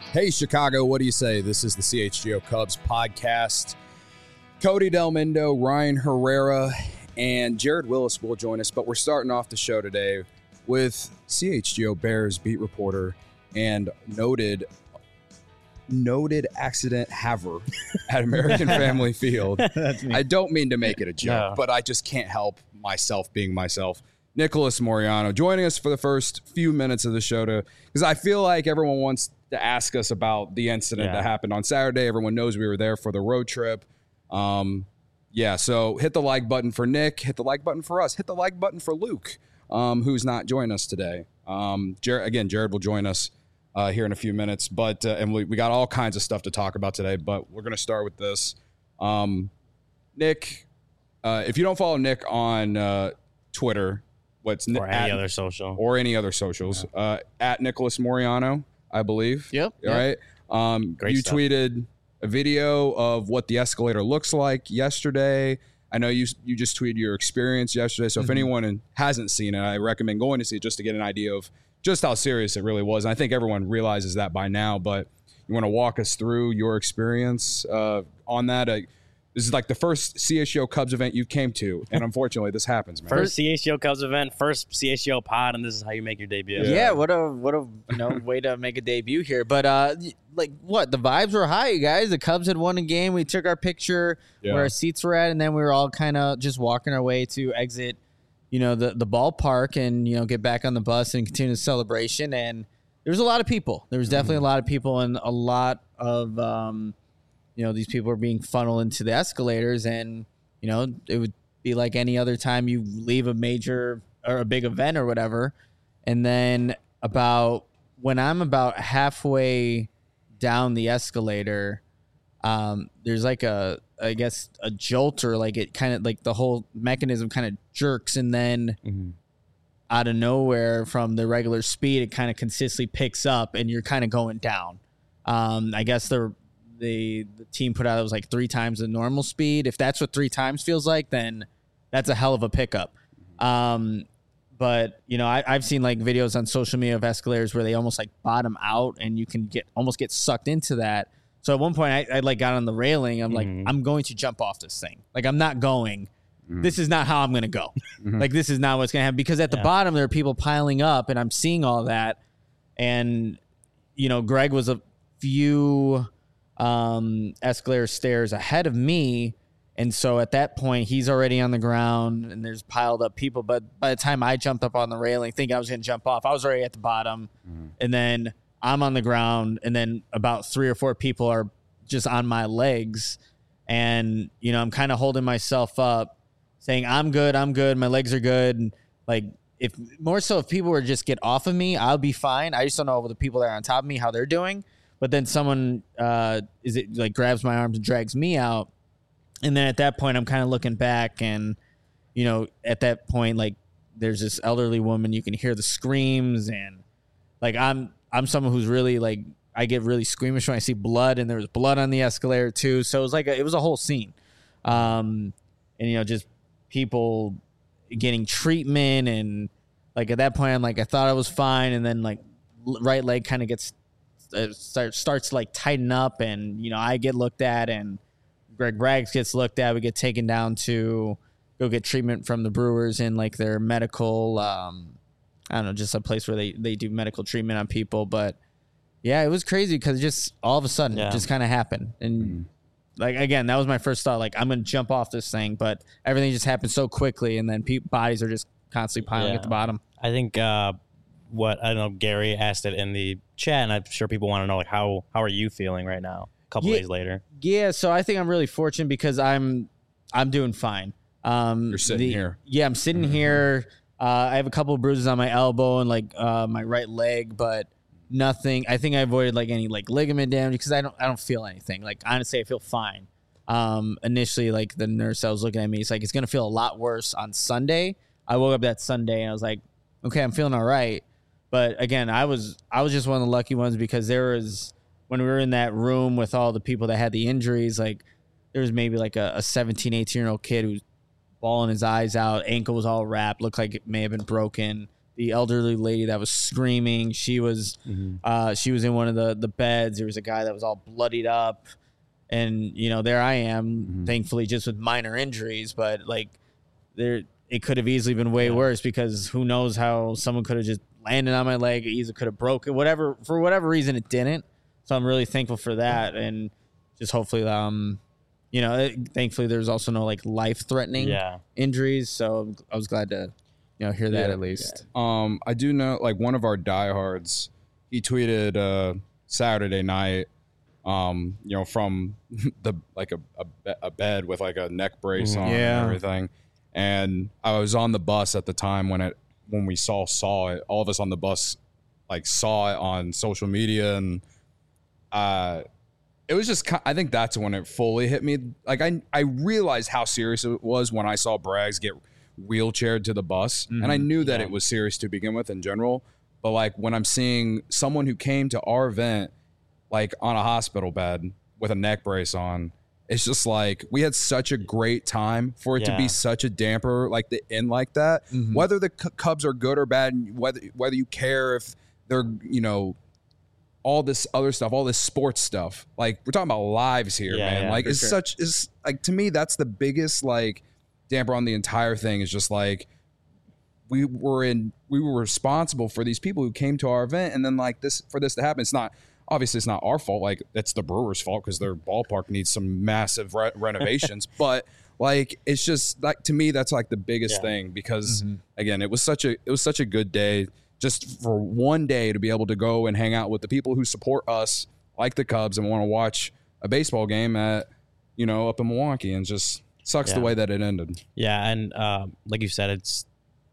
Hey, Chicago, what do you say? This is the CHGO Cubs podcast. Cody Delmendo, Ryan Herrera, and Jared Willis will join us, but we're starting off the show today with CHGO Bears beat reporter and noted accident haver at American Family Field. I don't mean to make it a joke, but I just can't help myself being myself. Nicholas Moriano joining us for the first few minutes of the show because I feel like everyone wants to ask us about the incident that happened on Saturday. Everyone knows we were there for the road trip. So hit the like button for Nick, hit the like button for us, hit the like button for Luke, who's not joining us today. Jared will join us here in a few minutes, but and we got all kinds of stuff to talk about today, but we're going to start with this. Nick, if you don't follow Nick on Twitter, or any other socials, at Nicholas Moriano, I believe. Yep. Right. Great you stuff. tweeted a video of what the escalator looks like yesterday. I know you just tweeted your experience yesterday. So if anyone hasn't seen it, I recommend going to see it just to get an idea of just how serious it really was. And I think everyone realizes that by now, but you want to walk us through your experience on that? This is like the first CHGO Cubs event you came to, and unfortunately, this happens, man. First CHGO Cubs event, first CHGO pod, and this is how you make your debut. Yeah, what a way to make a debut here. But the vibes were high, you guys. The Cubs had won a game. We took our picture where our seats were at, and then we were all kind of just walking our way to exit, the ballpark and get back on the bus and continue the celebration. And there was a lot of people. There was definitely a lot of people, and a lot of these people are being funneled into the escalators, and, it would be like any other time you leave a major or a big event or whatever. And then when I'm about halfway down the escalator, there's like a jolt, or like it kind of like the whole mechanism kind of jerks. And then out of nowhere from the regular speed, it kind of consistently picks up and you're kind of going down. I guess the team put out it was like 3 times the normal speed. If that's what 3 times feels like, then that's a hell of a pickup. But I've seen like videos on social media of escalators where they almost like bottom out, and you can almost get sucked into that. So at one point I like got on the railing. I'm like, I'm going to jump off this thing. Like, I'm not going. This is not how I'm going to go. Like, this is not what's going to happen, because at the bottom there are people piling up, and I'm seeing all that. And Greg was a few escalator stairs ahead of me, and so at that point he's already on the ground and there's piled up people. But by the time I jumped up on the railing thinking I was going to jump off, I was already at the bottom. And then I'm on the ground, and then about 3 or 4 people are just on my legs, and I'm kind of holding myself up saying I'm good, my legs are good. And like, if people were just get off of me, I'll be fine. I just don't know the people that are on top of me, how they're doing. But then someone grabs my arms and drags me out. And then at that point, I'm kind of looking back, and, at that point, like, there's this elderly woman. You can hear the screams, and like, I'm someone who's really like, I get really squeamish when I see blood, and there was blood on the escalator too. So it was like, it was a whole scene. And, just people getting treatment. And like, at that point, I'm like, I thought I was fine. And then like right leg kind of gets, starts to like tighten up, and I get looked at, and Greg Braggs gets looked at. We get taken down to go get treatment from the Brewers in like their medical I don't know, just a place where they do medical treatment on people. But yeah, it was crazy because just all of a sudden it just kind of happened. And like, again, that was my first thought, like, I'm gonna jump off this thing, but everything just happened so quickly, and then bodies are just constantly piling at the bottom. I think Gary asked it in the chat, and I'm sure people want to know, like, how are you feeling right now, a couple days later? Yeah, so I think I'm really fortunate because I'm doing fine. You're sitting here. Yeah, I'm sitting here. I have a couple of bruises on my elbow and like my right leg, but nothing. I think I avoided like any like ligament damage because I don't feel anything. Like, honestly, I feel fine. Initially, like, the nurse that was looking at me, it's like, it's gonna feel a lot worse on Sunday. I woke up that Sunday and I was like, okay, I'm feeling all right. But again, I was just one of the lucky ones because there was, when we were in that room with all the people that had the injuries, like, there was maybe like a 17, 18-year-old kid who was bawling his eyes out, ankle was all wrapped, looked like it may have been broken. the elderly lady that was screaming. She was in one of the beds. There was a guy that was all bloodied up, and there I am, thankfully just with minor injuries, but like it could have easily been way worse, because who knows how someone could have just landed on my leg, either could have broken, whatever, for whatever reason it didn't. So I'm really thankful for that, and just hopefully thankfully there's also no like life-threatening injuries, so I was glad to hear that at least. I do know, like, one of our diehards, he tweeted Saturday night, from the like a bed with like a neck brace on and everything. And I was on the bus at the time when we saw it. All of us on the bus like saw it on social media, and it was just, I think that's when it fully hit me. Like I realized how serious it was when I saw Braggs get wheelchaired to the bus, and I knew that it was serious to begin with in general. But like when I'm seeing someone who came to our event like on a hospital bed with a neck brace on, it's just like we had such a great time for it to be such a damper, like the end like that. Whether the Cubs are good or bad, whether you care if they're all this other stuff, all this sports stuff. Like we're talking about lives here, man. Like it's like, to me, that's the biggest like damper on the entire thing. Is just like we were responsible for these people who came to our event, and then like for this to happen, it's not our fault. Like it's the Brewers' fault because their ballpark needs some massive renovations. But like it's just like, to me, that's like the biggest thing, because again, it was such a good day. Just for one day to be able to go and hang out with the people who support us, like the Cubs, and want to watch a baseball game at, up in Milwaukee, and just sucks the way that it ended. Yeah, and like you said, it's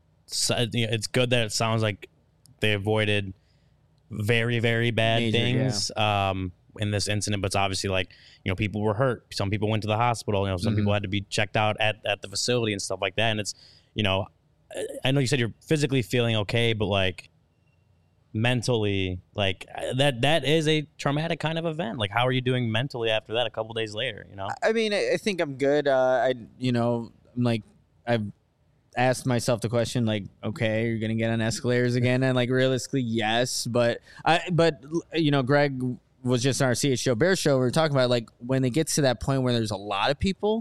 good that it sounds like they avoided very, very bad things in this incident, but it's obviously like, people were hurt. Some people went to the hospital. Some people had to be checked out at the facility and stuff like that. And it's, I know you said you're physically feeling okay, but like mentally, like that is a traumatic kind of event. Like, how are you doing mentally after that a couple days later? I mean, I think I'm good. I'm like, I've asked myself the question, like, okay, you're gonna get on escalators again, and like realistically, yes, but Greg was just on our CHGO Bear show. We were talking about like when it gets to that point where there's a lot of people.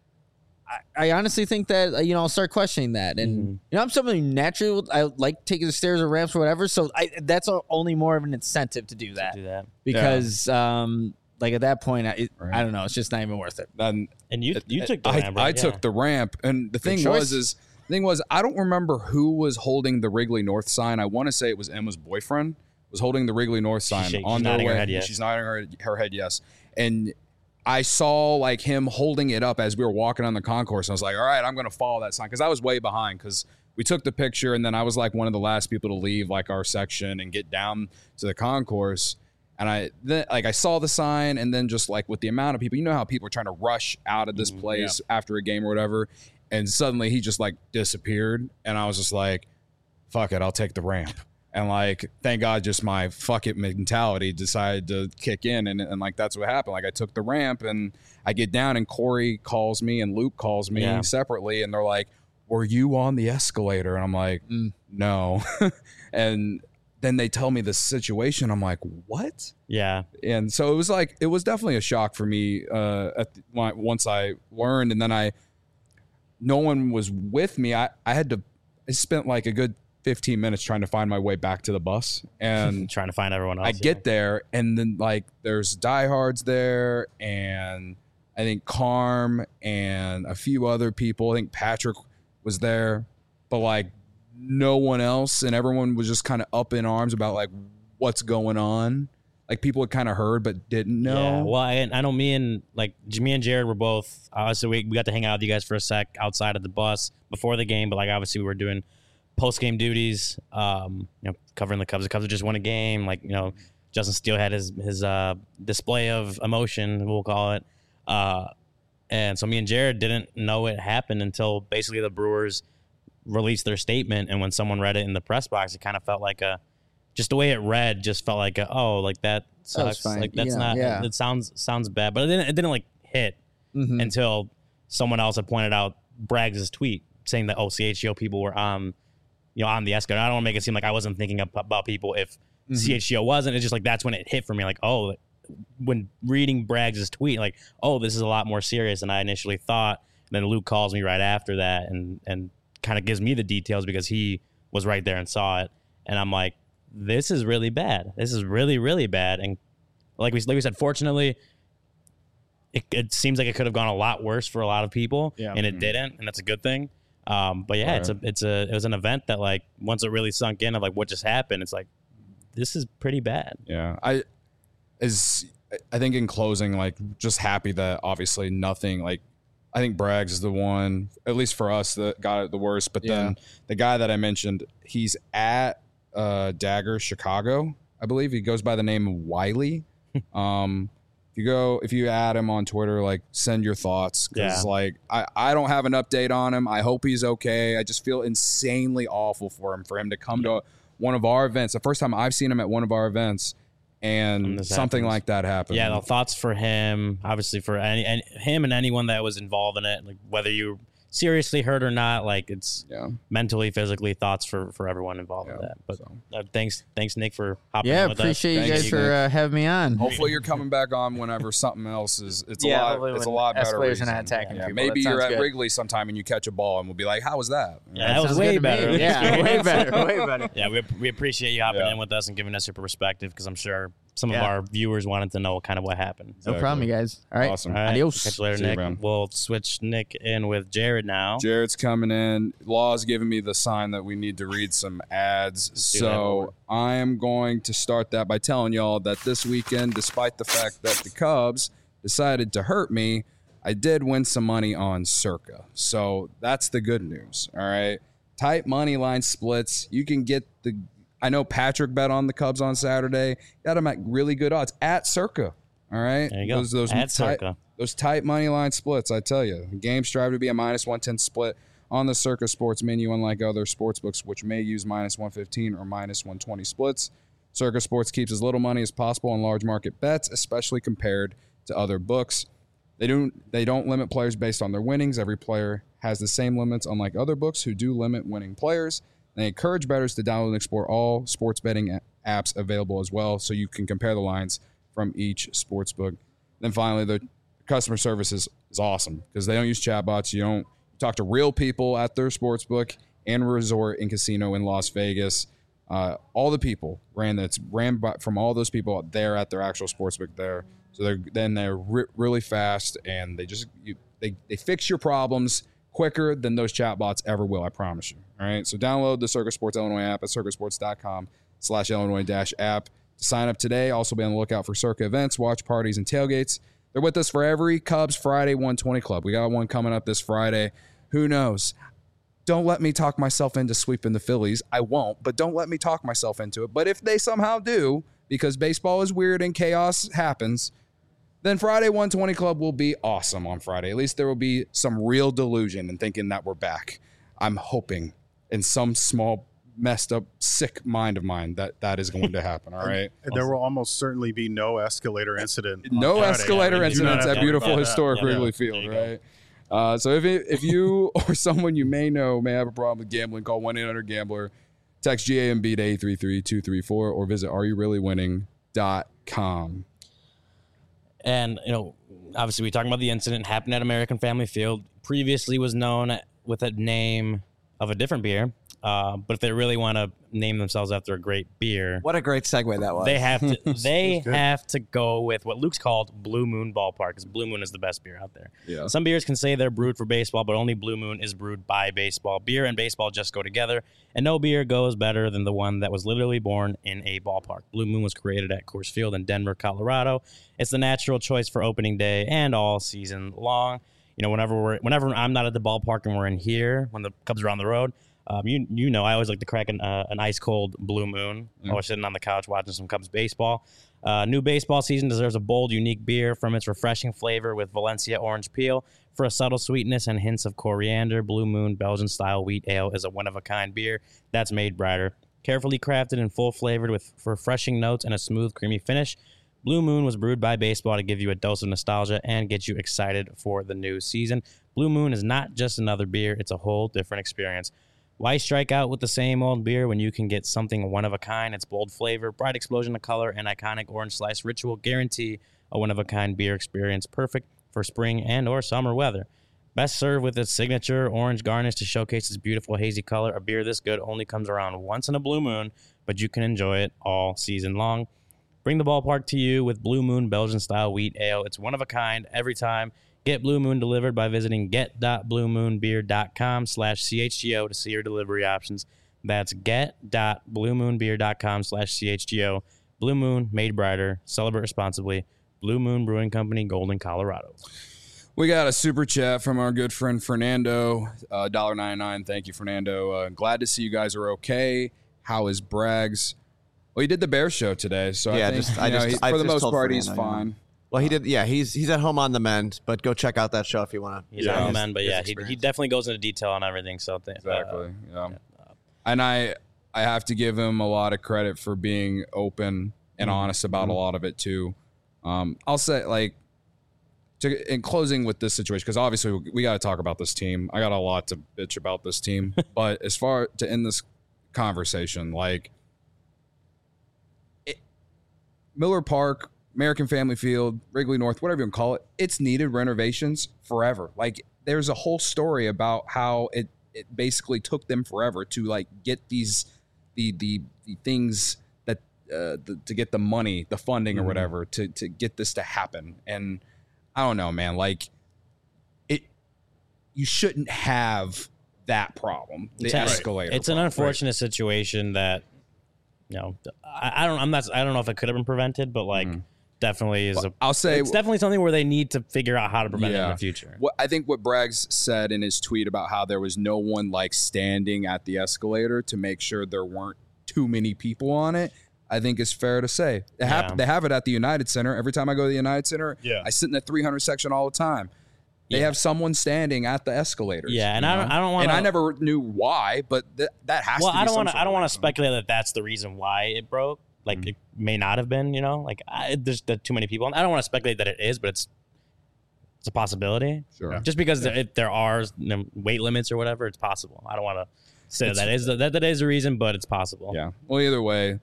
I honestly think that I'll start questioning that, and I'm someone who naturally I like taking the stairs or ramps or whatever. So that's only more of an incentive to do that, because like at that point, I don't know, it's just not even worth it. And you took the ramp. I took the ramp, and the thing was I don't remember who was holding the Wrigley North sign. I want to say it was Emma's boyfriend was holding the Wrigley North sign on their way. She's nodding her head yes, and I saw like him holding it up as we were walking on the concourse. And I was like, all right, I'm going to follow that sign, because I was way behind, because we took the picture, and then I was like one of the last people to leave like our section and get down to the concourse. And I saw the sign, and then just like with the amount of people, how people are trying to rush out of this place after a game or whatever. And suddenly he just like disappeared. And I was just like, fuck it, I'll take the ramp. And like, thank God, just my fuck it mentality decided to kick in, and like that's what happened. Like I took the ramp, and I get down, and Corey calls me and Luke calls me separately, and they're like, "Were you on the escalator?" And I'm like, "No." And then they tell me the situation. I'm like, "What?" Yeah. And so it was definitely a shock for me once I learned, and then no one was with me. I spent like a good 15 minutes trying to find my way back to the bus, and trying to find everyone else. I get there, and then like there's diehards there, and I think Carm and a few other people. I think Patrick was there, but like no one else, and everyone was just kind of up in arms about like what's going on. Like people had kind of heard but didn't know. Yeah, well, I know me and Jared were both. So we got to hang out with you guys for a sec outside of the bus before the game, but like obviously we were doing post-game duties, covering the Cubs. The Cubs just won a game. Like, Justin Steele had his display of emotion, we'll call it. And so me and Jared didn't know it happened until basically the Brewers released their statement. And when someone read it in the press box, it kind of felt like just the way it read just felt like that sucks. Like that's it sounds bad, but it didn't like hit until someone else had pointed out Braggs' tweet saying that CHGO people were on on the escalator. I don't want to make it seem like I wasn't thinking about people if CHGO wasn't. It's just like that's when it hit for me. Like, oh, when reading Braggs' tweet, like, oh, this is a lot more serious than I initially thought. And then Luke calls me right after that and kind of gives me the details because he was right there and saw it. And I'm like, this is really bad. This is really, really bad. And like we said, fortunately, it seems like it could have gone a lot worse for a lot of people, and it didn't, and that's a good thing. But yeah, it was an event that, like, once it really sunk in of like what just happened, it's like, this is pretty bad. Yeah, I think in closing, like, just happy that obviously nothing, like, I think Braggs is the one, at least for us, that got it the worst. But then the guy that I mentioned, he's at Dagger Chicago, I believe. He goes by the name of Wiley. If you add him on Twitter, like, send your thoughts, because like I don't have an update on him. I hope he's okay. I just feel insanely awful for him to come to one of our events. The first time I've seen him at one of our events, and something like that happened. Yeah, the thoughts for him, obviously for him and anyone that was involved in it, like whether you seriously hurt or not, like it's mentally, physically, thoughts for everyone involved in that. But thanks Nick for hopping on with us. Appreciate you guys for having me on. Hopefully you're coming back on whenever something else is. It's a lot better. Escalators are not attacking people. Maybe you're at Wrigley sometime and you catch a ball and we'll be like, how was that? Yeah, that was way better. Yeah, way better. Yeah, we appreciate you hopping in with us and giving us your perspective, because I'm sure some of our viewers wanted to know kind of what happened. No problem, you guys. All right. Awesome. All right. Adios. Catch you later, Nick. You, we'll switch Nick in with Jared now. Jared's coming in. Law's giving me the sign that we need to read some ads. So I am going to start that by telling y'all that this weekend, despite the fact that the Cubs decided to hurt me, I did win some money on Circa. So that's the good news. All right. Tight money line splits. You can get I know Patrick bet on the Cubs on Saturday. Got him at really good odds at Circa. All right. There you go. Those tight money line splits, I tell you. The game strive to be a -110 split on the Circa Sports menu, unlike other sports books, which may use -115 or -120 splits. Circa Sports keeps as little money as possible on large market bets, especially compared to other books. They don't limit players based on their winnings. Every player has the same limits, unlike other books who do limit winning players. They encourage bettors to download and explore all sports betting apps available as well, so you can compare the lines from each sports book. Then finally, the customer service is awesome, because they don't use chatbots. You talk to real people at their sports book and resort and casino in Las Vegas. All the people ran from all those people there at their actual sports book there. So they're really fast, and they fix your problems quicker than those chatbots ever will, I promise you. All right, so download the Circa Sports Illinois app at circasports.com/Illinois-app to sign up today. Also be on the lookout for Circa events, watch parties, and tailgates. They're with us for every Cubs Friday 120 Club. We got one coming up this Friday. Who knows? Don't let me talk myself into sweeping the Phillies. I won't, but don't let me talk myself into it. But if they somehow do, because baseball is weird and chaos happens, then Friday 120 Club will be awesome on Friday. At least there will be some real delusion in thinking that we're back. I'm hoping in some small, messed up, sick mind of mine that is going to happen, all right? There will almost certainly be no escalator incident. No escalator incidents at beautiful historic Wrigley Field, right? So if you or someone you may know may have a problem with gambling, call 1-800-GAMBLER, text GAMB to 833-234, or visit areyoureallywinning.com. And, obviously we talking about the incident happened at American Family Field. Previously was known with a name of a different beer. But if they really want to name themselves after a great beer, what a great segue that was. They have to. They have to go with what Luke's called Blue Moon Ballpark, because Blue Moon is the best beer out there. Yeah. Some beers can say they're brewed for baseball, but only Blue Moon is brewed by baseball. Beer and baseball just go together, and no beer goes better than the one that was literally born in a ballpark. Blue Moon was created at Coors Field in Denver, Colorado. It's the natural choice for opening day and all season long. Whenever I'm not at the ballpark and we're in here, when the Cubs are on the road. I always like to crack an ice cold Blue Moon while we're sitting on the couch watching some Cubs baseball. New baseball season deserves a bold, unique beer. From its refreshing flavor with Valencia orange peel for a subtle sweetness and hints of coriander, Blue Moon Belgian-style wheat ale is a one-of-a-kind beer that's made brighter. Carefully crafted and full-flavored with refreshing notes and a smooth, creamy finish, Blue Moon was brewed by baseball to give you a dose of nostalgia and get you excited for the new season. Blue Moon is not just another beer, it's a whole different experience. Why strike out with the same old beer when you can get something one of a kind? It's bold flavor, bright explosion of color, and iconic orange slice ritual guarantee a one of a kind beer experience perfect for spring and or summer weather. Best served with its signature orange garnish to showcase its beautiful hazy color. A beer this good only comes around once in a blue moon, but you can enjoy it all season long. Bring the ballpark to you with Blue Moon Belgian-style wheat ale. It's one of a kind every time. Get Blue Moon delivered by visiting get.bluemoonbeer.com/CHGO to see your delivery options. That's get.bluemoonbeer.com/CHGO. Blue Moon, made brighter. Celebrate responsibly. Blue Moon Brewing Company, Golden, Colorado. We got a super chat from our good friend Fernando, $1.99. Thank you, Fernando. Glad to see you guys are okay. How is Braggs? Well, he did the Bears show today, so I think for the most part he's fine. Well, he did. Yeah, he's at home on the mend, but go check out that show if you want to. He's on the mend, but yeah, he definitely goes into detail on everything. So exactly, and I have to give him a lot of credit for being open and honest about a lot of it too. I'll say in closing with this situation, because obviously we got to talk about this team. I got a lot to bitch about this team, but as far to end this conversation, Miller Park, American Family Field, Wrigley North, whatever you want to call it, it's needed renovations forever. There's a whole story about how it basically took them forever to get these the things that to get the money, the funding or whatever to get this to happen. And I don't know, man, you shouldn't have that problem. The escalator. It's an unfortunate situation that I don't know if it could have been prevented, but definitely is it's definitely something where they need to figure out how to prevent it in the future. I think what Braggs said in his tweet about how there was no one standing at the escalator to make sure there weren't too many people on it, I think is fair to say. They have it at the United Center. Every time I go to the United Center, I sit in the 300 section all the time. They have someone standing at the escalators. Yeah, and I don't want. And I never knew why, but that has to be. I don't want to speculate that that's the reason why it broke. It may not have been. There's too many people. I don't want to speculate that it is, but it's a possibility. Sure. Just because there are weight limits or whatever, it's possible. I don't want to say that is the reason, but it's possible. Yeah. Well, either way,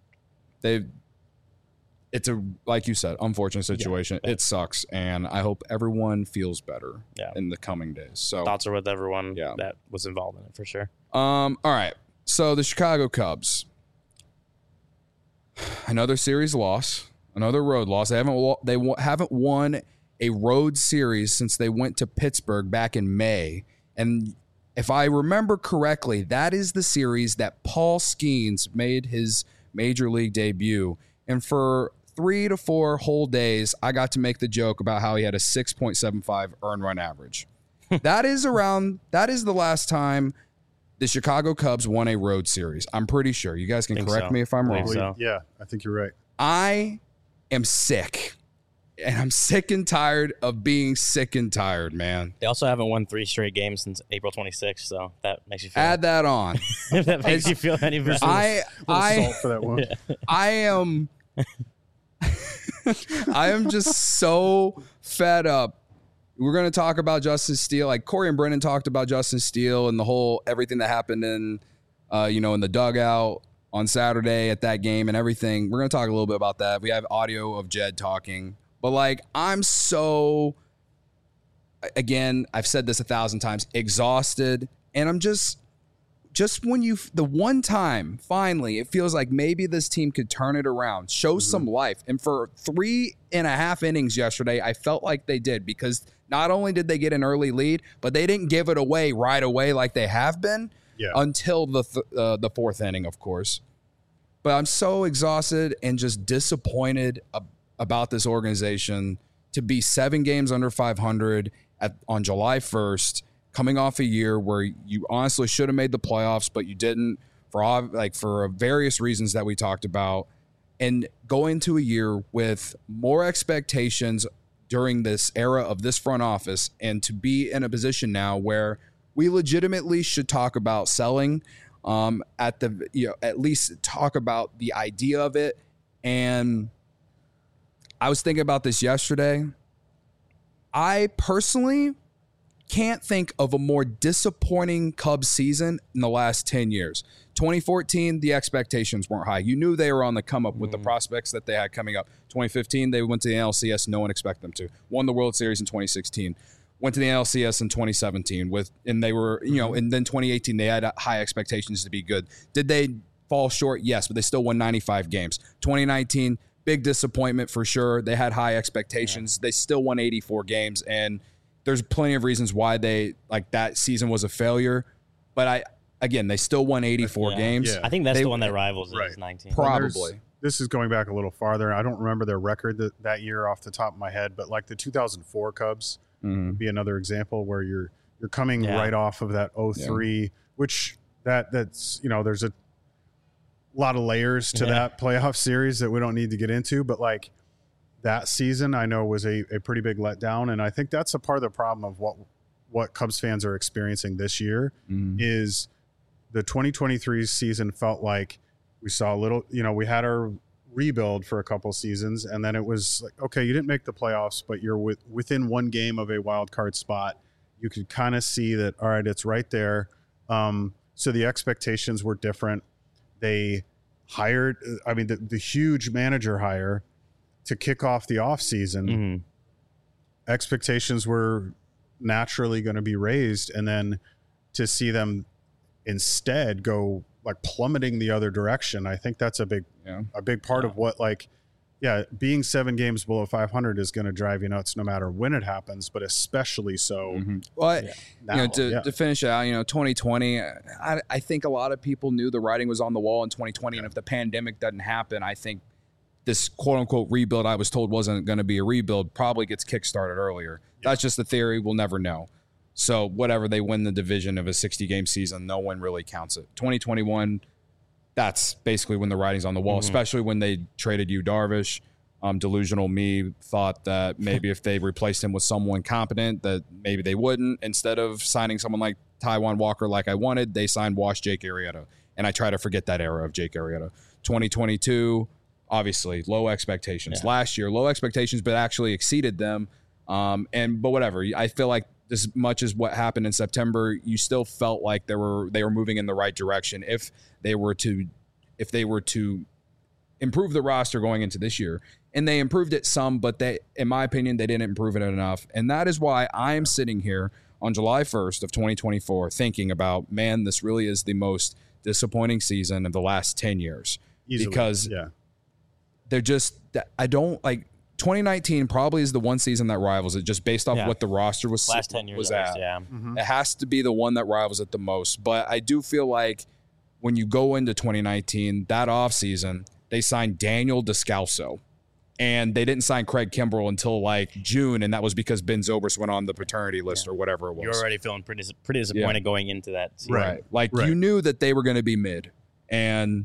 it's a, like you said, unfortunate situation. Yeah. It sucks, and I hope everyone feels better in the coming days. So thoughts are with everyone that was involved in it for sure. All right. So the Chicago Cubs, another series loss, another road loss. They haven't won a road series since they went to Pittsburgh back in May, and if I remember correctly, that is the series that Paul Skeens made his major league debut, and for 3 to 4 whole days, I got to make the joke about how he had a 6.75 earned run average. That is the last time the Chicago Cubs won a road series. I'm pretty sure. You guys can correct me if I'm wrong. So. Yeah, I think you're right. I am sick. And I'm sick and tired of being sick and tired, man. They also haven't won 3 straight games since April 26th, so that makes you feel. Add that on. If that makes you feel any better. Salt for that one. I am just so fed up. We're going to talk about Justin Steele. Corey and Brennan talked about Justin Steele and the whole everything that happened in the dugout on Saturday at that game and everything. We're going to talk a little bit about that. We have audio of Jed talking. But I'm so, again, I've said this 1,000 times, exhausted. And I'm just when the one time, finally, it feels like maybe this team could turn it around, show some life. And for 3.5 innings yesterday, I felt like they did, because not only did they get an early lead, but they didn't give it away right away like they have been until the 4th inning, of course. But I'm so exhausted and just disappointed about this organization to be 7 games under 500 on July 1st, coming off a year where you honestly should have made the playoffs, but you didn't for various reasons that we talked about, and go into a year with more expectations during this era of this front office, and to be in a position now where we legitimately should talk about selling, at least talk about the idea of it. And I was thinking about this yesterday. I personally can't think of a more disappointing Cubs season in the last 10 years. 2014, the expectations weren't high. You knew they were on the come up with the prospects that they had coming up. 2015, they went to the NLCS. No one expected them to. Won the World Series in 2016. Went to the NLCS in 2017 and they were, and then 2018, they had high expectations to be good. Did they fall short? Yes, but they still won 95 games. 2019, big disappointment for sure. They had high expectations. They still won 84 games, and there's plenty of reasons why that season was a failure. But they still won 84 games. Yeah. I think that's the one that rivals is 19. Probably. This is going back a little farther. I don't remember their record that year off the top of my head, but like the 2004 Cubs would be another example where you're coming right off of that 03, which that's there's a lot of layers to that playoff series that we don't need to get into, but like that season I know was a pretty big letdown, and I think that's a part of the problem of what Cubs fans are experiencing this year is the 2023 season felt like we saw a little, we had our rebuild for a couple seasons, and then it was like, okay, you didn't make the playoffs, but you're within one game of a wild card spot. You could kind of see that, all right, it's right there. So the expectations were different. They hired, the huge manager hire to kick off the offseason. Expectations were naturally going to be raised, and then to see them instead go like plummeting the other direction, I think that's a big part of what being 7 games below 500 is going to drive you nuts no matter when it happens, but especially so. Well, to finish it out, 2020, I think a lot of people knew the writing was on the wall in 2020, and if the pandemic doesn't happen, I think this quote-unquote rebuild I was told wasn't going to be a rebuild probably gets kickstarted earlier. That's just the theory. We'll never know. So whatever, they win the division of a 60-game season, no one really counts it. 2021, that's basically when the writing's on the wall, especially when they traded Yu Darvish. Delusional me thought that maybe if they replaced him with someone competent, that maybe they wouldn't. Instead of signing someone like Taijuan Walker like I wanted, they signed Jake Arrieta. And I try to forget that era of Jake Arrieta. 2022, obviously, low expectations. Last year, low expectations, but actually exceeded them. But whatever. I feel like as much as what happened in September, you still felt like they were moving in the right direction if they were to improve the roster going into this year. And they improved it some, but in my opinion, they didn't improve it enough. And that is why I am sitting here on July 1st of 2024 thinking about, man, this really is the most disappointing season of the last 10 years. Easily, because they're just, I don't like, 2019 probably is the one season that rivals it, just based off what the roster was last 10 years was at. It has to be the one that rivals it the most. But I do feel like when you go into 2019, that offseason, they signed Daniel Descalso, and they didn't sign Craig Kimbrell until like June, and that was because Ben Zobrist went on the paternity list or whatever it was. You're already feeling pretty disappointed going into that season. Right. Like you knew that they were going to be mid, and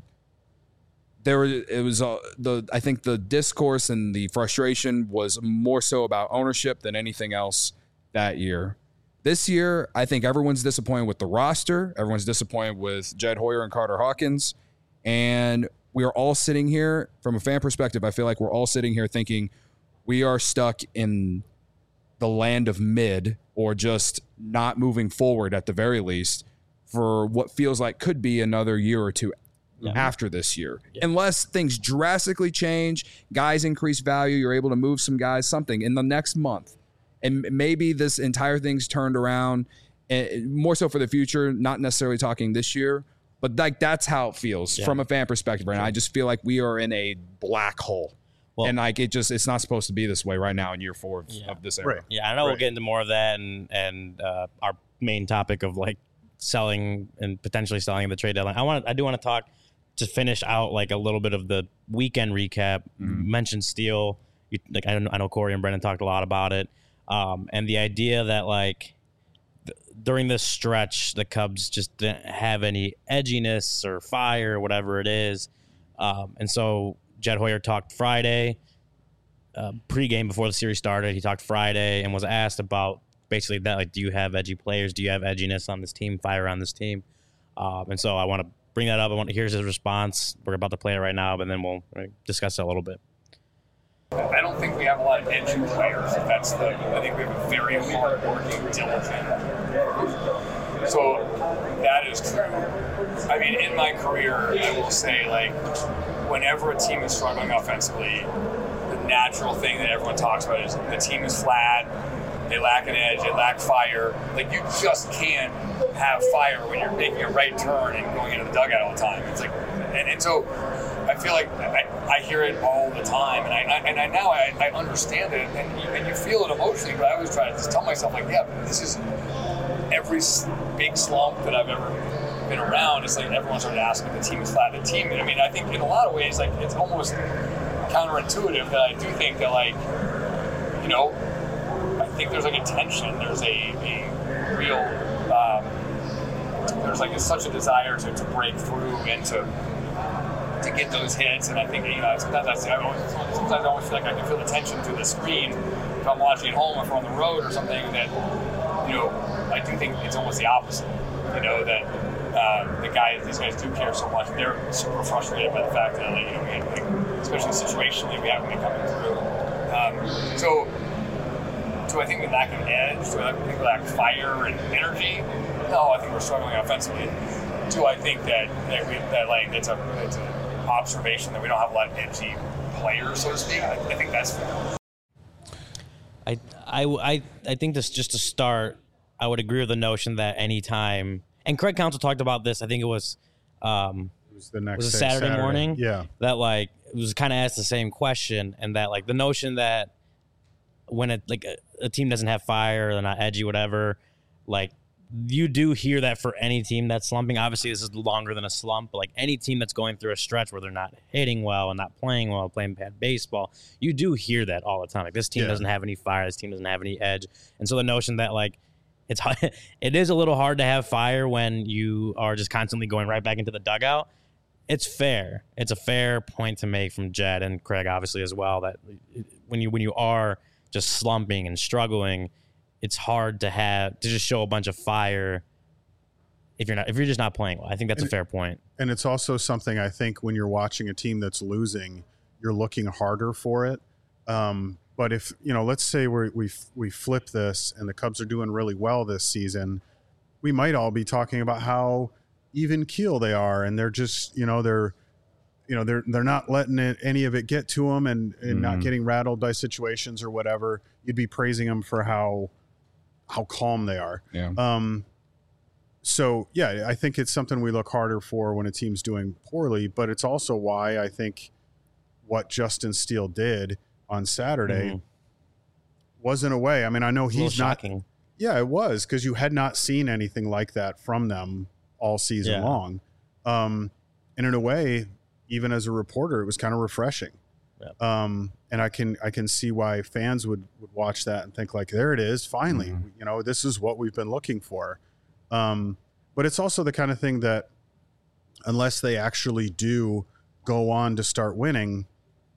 I think the discourse and the frustration was more so about ownership than anything else that year. This year, I think everyone's disappointed with the roster. Everyone's disappointed with Jed Hoyer and Carter Hawkins. And we are all sitting here, from a fan perspective, I feel like we're all sitting here thinking we are stuck in the land of mid, or just not moving forward at the very least, for what feels like could be another year or two after this year. Unless things drastically change, guys increase value, you're able to move some guys, something in the next month. And maybe this entire thing's turned around, more so for the future, not necessarily talking this year, but like that's how it feels from a fan perspective. Right now, I just feel like we are in a black hole. Well, and like it's not supposed to be this way right now in year 4 of this era. Right. Yeah, I know we'll get into more of that and our main topic of like selling and potentially selling at the trade deadline. I do want to talk to finish out like a little bit of the weekend recap. You mentioned Steele. I know Corey and Brendan talked a lot about it, and the idea that like during this stretch the Cubs just didn't have any edginess or fire or whatever it is, and so Jed Hoyer talked Friday, pregame before the series started. He talked Friday and was asked about basically that, like, do you have edgy players? Do you have edginess on this team, fire on this team? And so I want to bring that up. I want to hear his response. We're about to play it right now, but then we'll discuss it a little bit. I don't think we have a lot of edgy players. I think we have a very hard-working, diligent group. So that is true. I mean, in my career, I will say, like, whenever a team is struggling offensively, the natural thing that everyone talks about is the team is flat, they lack an edge, they lack fire. Like, you just can't have fire when you're making a right turn and going into the dugout all the time. It's like, and so I feel like I hear it all the time, and I now understand it, and you feel it emotionally. But I always try to just tell myself, like, yeah, this is every big slump that I've ever been around. It's like everyone started asking if the team is flat. The team, I mean, I think in a lot of ways, like, it's almost counterintuitive that I do think that, like, you know, I think there's like a tension. There's a real there's like such a desire to break through and to get those hits, and I think, you know, sometimes I always feel like I can feel the tension through the screen if I'm watching at home or if I'm on the road or something. That, you know, I do think it's almost the opposite. You know, that these guys do care so much. They're super frustrated by the fact that, like, you know, like, especially situationally, we haven't been coming through. So do I think we lack an edge? Do I think we lack fire and energy? No, I think we're struggling offensively. Do I think that it's an observation that we don't have a lot of edgy players, so to speak? I think that's fair. I think this, just to start, I would agree with the notion that anytime, and Craig Counsell talked about this, I think it was Saturday morning. Yeah. That, like, it was kind of asked the same question, and that, like, the notion that when a team doesn't have fire, they're not edgy, whatever, like, you do hear that for any team that's slumping. Obviously, this is longer than a slump, but like any team that's going through a stretch where they're not hitting well and not playing well, playing bad baseball, you do hear that all the time. Like, this team doesn't have any fire, this team doesn't have any edge. And so the notion that, like, it is a little hard to have fire when you are just constantly going right back into the dugout. It's fair. It's a fair point to make from Jed and Craig, obviously, as well, that when you are just slumping and struggling, it's hard to just show a bunch of fire if you're just not playing well. I think that's a fair point. And it's also something, I think, when you're watching a team that's losing, you're looking harder for it. But if, you know, let's say we flip this and the Cubs are doing really well this season, we might all be talking about how even keel they are, and they're just, they're not letting any of it get to them and not getting rattled by situations or whatever. You'd be praising them for how calm they are. Yeah. So, yeah, I think it's something we look harder for when a team's doing poorly, but it's also why I think what Justin Steele did on Saturday was, in a way, I mean, I know he's not shocking. Yeah, it was, because you had not seen anything like that from them all season long. And in a way, even as a reporter, it was kind of refreshing. Yeah. And I can see why fans would watch that and think, like, there it is, finally, this is what we've been looking for. But it's also the kind of thing that, unless they actually do go on to start winning,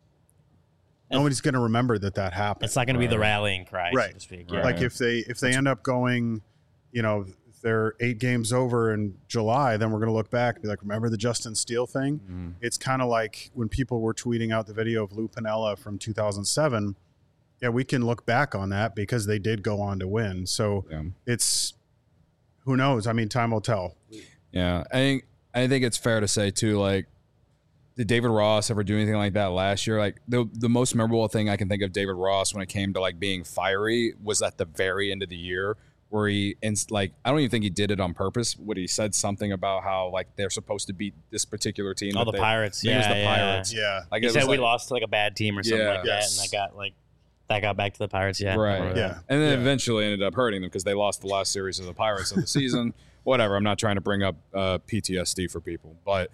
nobody's going to remember that happened. It's not going to be the rallying cry, right? So to speak. Right. Like if they end up going, if they're 8 games over in July, then we're going to look back and be like, remember the Justin Steele thing? It's kind of like when people were tweeting out the video of Lou Piniella from 2007. Yeah, we can look back on that because they did go on to win. So it's, who knows? I mean, time will tell. Yeah, I think it's fair to say too, like, did David Ross ever do anything like that last year? Like, the most memorable thing I can think of David Ross when it came to, like, being fiery was at the very end of the year, where I don't even think he did it on purpose. What he said something about how, like, they're supposed to beat this particular team. Oh, the Pirates. Yeah, it was the Pirates. Yeah. Like, he said we lost to, like, a bad team or something like that, and that got back to the Pirates. Yeah. Right. Yeah. And then eventually ended up hurting them because they lost the last series of the Pirates of the season. Whatever. I'm not trying to bring up PTSD for people, but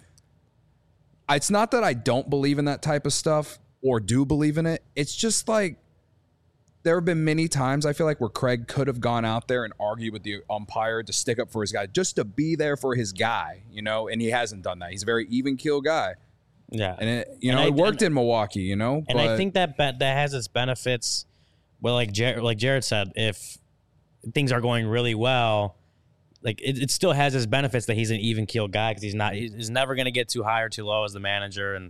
it's not that I don't believe in that type of stuff or do believe in it. It's just like, there have been many times I feel like where Craig could have gone out there and argued with the umpire to stick up for his guy, just to be there for his guy, and he hasn't done that. He's a very even keel guy. Yeah. And it worked in Milwaukee, And I think that has its benefits. Well, like Jared said, if things are going really well, like it still has its benefits that he's an even keel guy, because he's never going to get too high or too low as the manager, and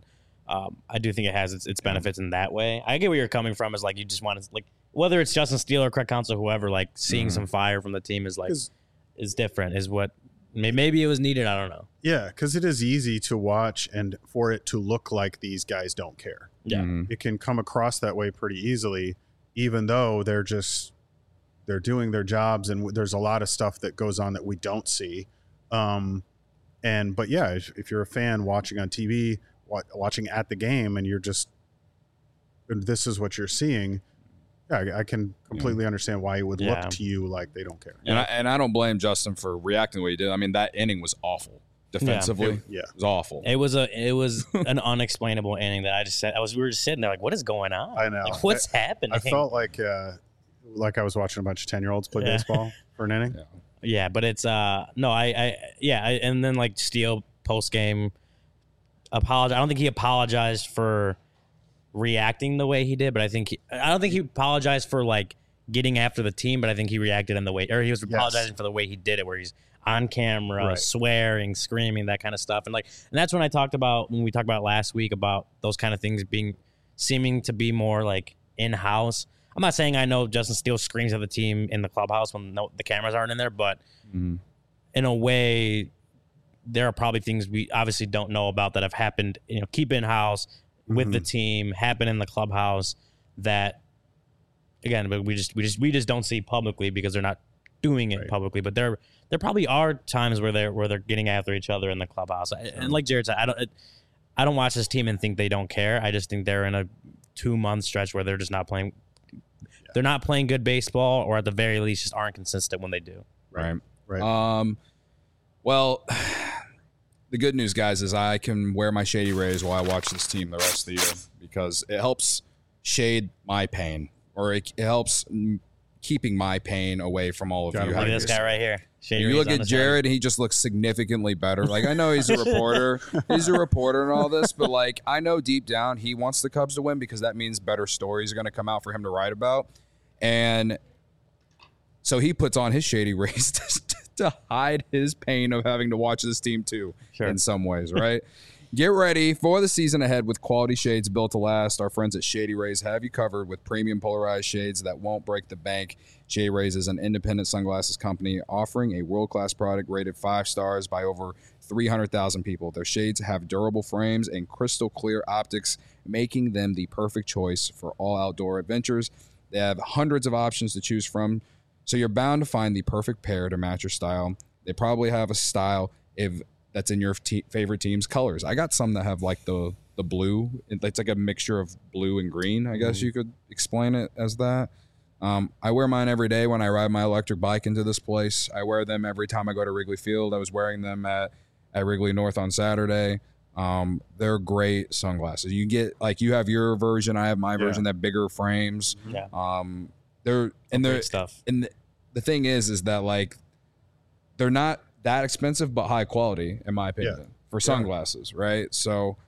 I do think it has its benefits in that way. I get where you're coming from. Is like you just want to like whether it's Justin Steele or Craig Counsell, whoever, like seeing some fire from the team is like is different. Is what maybe it was needed. I don't know. Yeah, because it is easy to watch and for it to look like these guys don't care. Yeah, it can come across that way pretty easily, even though they're doing their jobs and there's a lot of stuff that goes on that we don't see. But yeah, if you're a fan watching on TV, watching at the game, and this is what you're seeing, yeah, I can completely understand why it would look to you like they don't care. And I don't blame Justin for reacting the way he did. I mean, that inning was awful defensively. Yeah. It was awful. It was an unexplainable inning that I just said. We were just sitting there like, what is going on? I know. Like, what's happening? I felt like I was watching a bunch of 10-year-olds play baseball for an inning. Yeah, but it's and then like Steele post game apologized. I don't think he apologized for reacting the way he did, but I don't think he apologized for like getting after the team, but I think he reacted in the way, or he was apologizing for the way he did it, where he's on camera, swearing, screaming, that kind of stuff, and that's when we talked about last week about those kind of things seeming to be more like in house. I'm not saying I know Justin Steele screams at the team in the clubhouse when the cameras aren't in there, but in a way, there are probably things we obviously don't know about that have happened, keep in house with the team, happen in the clubhouse that, again, but we just don't see publicly because they're not doing it publicly. But there probably are times where they're getting after each other in the clubhouse. And like Jared said, I don't watch this team and think they don't care. I just think they're in a 2-month stretch where they're just not playing. They're not playing good baseball, or at the very least, just aren't consistent when they do. Right. Well, the good news, guys, is I can wear my Shady Rays while I watch this team the rest of the year because it helps shade my pain, or it helps keeping my pain away from all of you. Look at this guy right here. You look at Jared, and he just looks significantly better. Like, I know he's a reporter. He's a reporter and all this, but, like, I know deep down he wants the Cubs to win because that means better stories are going to come out for him to write about. And so he puts on his Shady Rays to hide his pain of having to watch this team too, in some ways, right? Get ready for the season ahead with quality shades built to last. Our friends at Shady Rays have you covered with premium polarized shades that won't break the bank. Shady Rays is an independent sunglasses company offering a world-class product rated 5 stars by over 300,000 people. Their shades have durable frames and crystal clear optics, making them the perfect choice for all outdoor adventures. They have hundreds of options to choose from, so you're bound to find the perfect pair to match your style. They probably have a style that's in your favorite team's colors. I got some that have like the blue. It's like a mixture of blue and green. I guess you could explain it as that. I wear mine every day when I ride my electric bike into this place. I wear them every time I go to Wrigley Field. I was wearing them at Wrigley North on Saturday. They're great sunglasses. You get you have your version, I have my version. That bigger frames. They're great stuff. And the thing is that like they're not that expensive, but high quality in my opinion for sunglasses, right? So,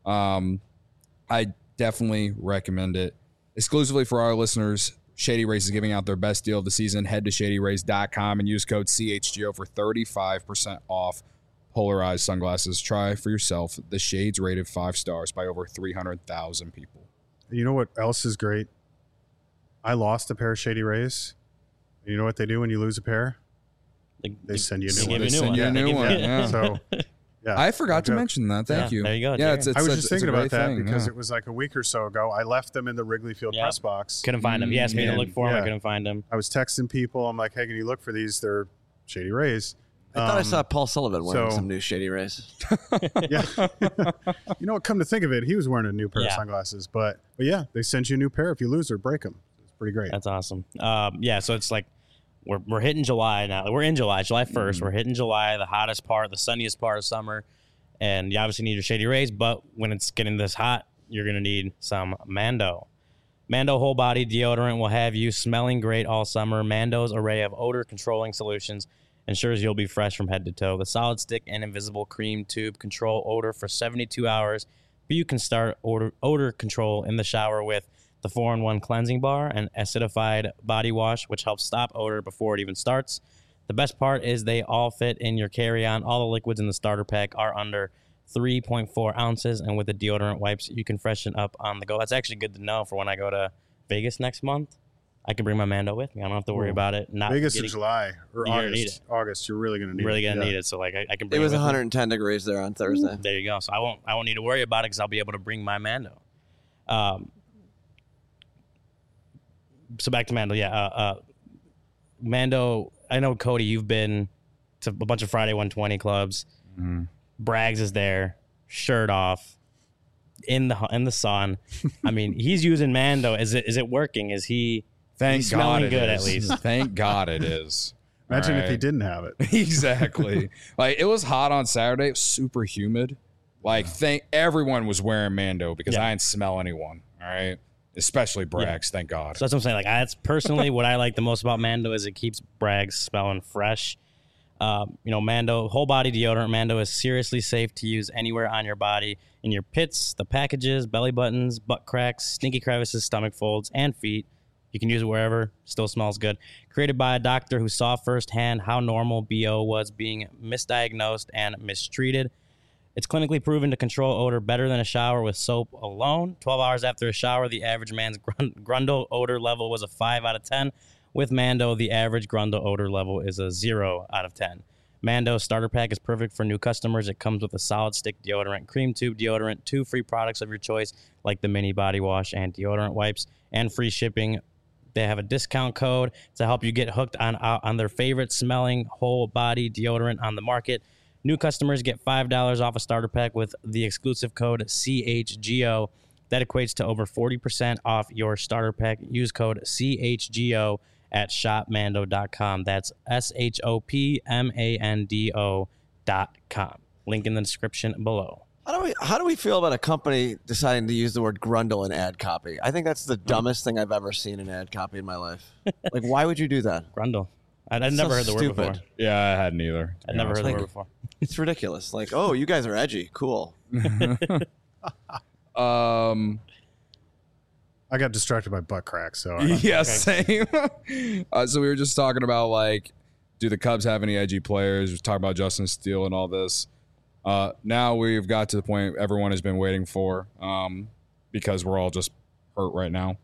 I definitely recommend it exclusively for our listeners. Shady Rays is giving out their best deal of the season. Head to shadyrays.com and use code CHGO for 35% off polarized sunglasses. Try for yourself. The shades rated 5 stars by over 300,000 people. You know what else is great? I lost a pair of Shady Rays. You know what they do when you lose a pair? They send you a new one. They send you a new one. Yeah. So, I forgot to mention that. Thank you. There you go. Yeah, I was just thinking about that because it was like a week or so ago. I left them in the Wrigley Field press box. Couldn't find them. He asked me to look for them. I couldn't find them. I was texting people. I'm like, hey, can you look for these? They're Shady Rays. I thought I saw Paul Sullivan wearing some new Shady Rays. Yeah. You know what? Come to think of it, he was wearing a new pair of sunglasses. But yeah, they send you a new pair. If you lose or break them. It's pretty great. That's awesome. So it's like we're hitting July now. We're in July 1st. We're hitting July, the hottest part, the sunniest part of summer. And you obviously need your Shady Rays, but when it's getting this hot, you're going to need some Mando. Mando Whole Body Deodorant will have you smelling great all summer. Mando's array of odor-controlling solutions ensures you'll be fresh from head to toe. The solid stick and invisible cream tube control odor for 72 hours. But you can start odor control in the shower with the 4-in-1 cleansing bar and acidified body wash, which helps stop odor before it even starts. The best part is they all fit in your carry-on. All the liquids in the starter pack are under 3.4 ounces, and with the deodorant wipes, you can freshen up on the go. That's actually good to know for when I go to Vegas next month. I can bring my Mando with me. I don't have to worry about it. Not Vegas in July or August. August, you're really gonna need it. So like I can bring it. Was with 110 degrees there on Thursday. There you go. So I won't need to worry about it because I'll be able to bring my Mando. So back to Mando. Yeah. Mando. I know, Cody, you've been to a bunch of Friday 120 clubs. Mm-hmm. Braggs is there, shirt off, in the sun. I mean, he's using Mando. Is it working? Is he? Thank smelling God good is. at least. Thank God it is. Imagine if he didn't have it. Exactly. Like, it was hot on Saturday. It was super humid. Like, everyone was wearing Mando because I didn't smell anyone. All right. Especially Braggs. Thank God. So that's what I'm saying. Like, that's personally what I like the most about Mando is it keeps Braggs smelling fresh. Mando, whole body deodorant. Mando is seriously safe to use anywhere on your body, in your pits, the packages, belly buttons, butt cracks, stinky crevices, stomach folds, and feet. You can use it wherever. Still smells good. Created by a doctor who saw firsthand how normal BO was being misdiagnosed and mistreated. It's clinically proven to control odor better than a shower with soap alone. 12 hours after a shower, the average man's Grundle odor level was a 5 out of 10. With Mando, the average Grundle odor level is a 0 out of 10. Mando starter pack is perfect for new customers. It comes with a solid stick deodorant, cream tube deodorant, 2 free products of your choice, like the mini body wash and deodorant wipes, and free shipping. They have a discount code to help you get hooked on their favorite smelling whole body deodorant on the market. New customers get $5 off a starter pack with the exclusive code CHGO. That equates to over 40% off your starter pack. Use code CHGO at shopmando.com. That's SHOPMANDO.com. Link in the description below. How do we feel about a company deciding to use the word Grundle in ad copy? I think that's the dumbest thing I've ever seen in ad copy in my life. Like, why would you do that? Grundle. I'd never heard the word before. Yeah, I hadn't either. I'd never heard the word before. It's ridiculous. Like, oh, you guys are edgy. Cool. I got distracted by butt cracks. So same. So we were just talking about, like, do the Cubs have any edgy players? We were talking about Justin Steele and all this. Now we've got to the point everyone has been waiting for, because we're all just hurt right now.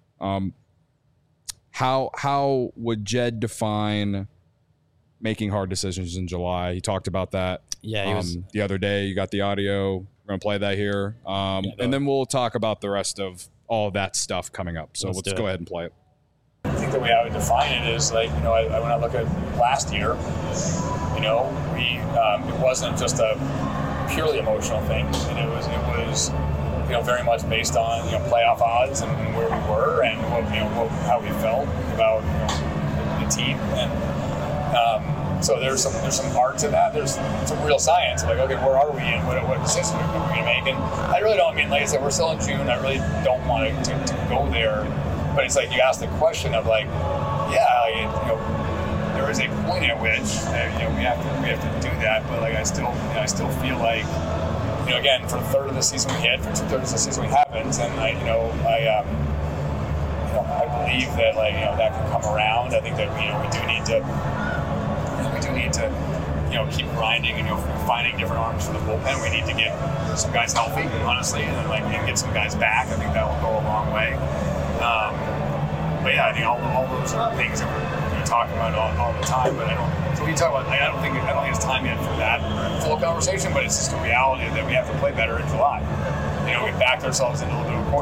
How would Jed define making hard decisions in July? He talked about that. Yeah, he was the other day. You got the audio. We're gonna play that here, and then we'll talk about the rest of all of that stuff coming up. So let's go ahead and play it. I think the way I would define it is, like, when I look at last year, it wasn't just a purely emotional thing, and it was very much based on playoff odds and where we were and how we felt about the team, and so there's some art to that. There's some real science. Like, okay, where are we and what decisions are we going to make? And I really don't like I said, we're still in June. I really don't want to go there, but it's like you ask the question of, like, there is a point at which we have to do that, but like I still feel like again, for a third of the season we hit, for 2/3 of the season we haven't, and I believe that that can come around. I think that we do need to keep grinding and finding different arms for the bullpen. We need to get some guys healthy, honestly, and then get some guys back. I think that will go a long way. But yeah, I think all those are things that we're talking about all the time. But I don't. So we talk about. I don't think it's time yet for that full conversation. But it's just a reality that we have to play better in July. We backed ourselves into a little bit of a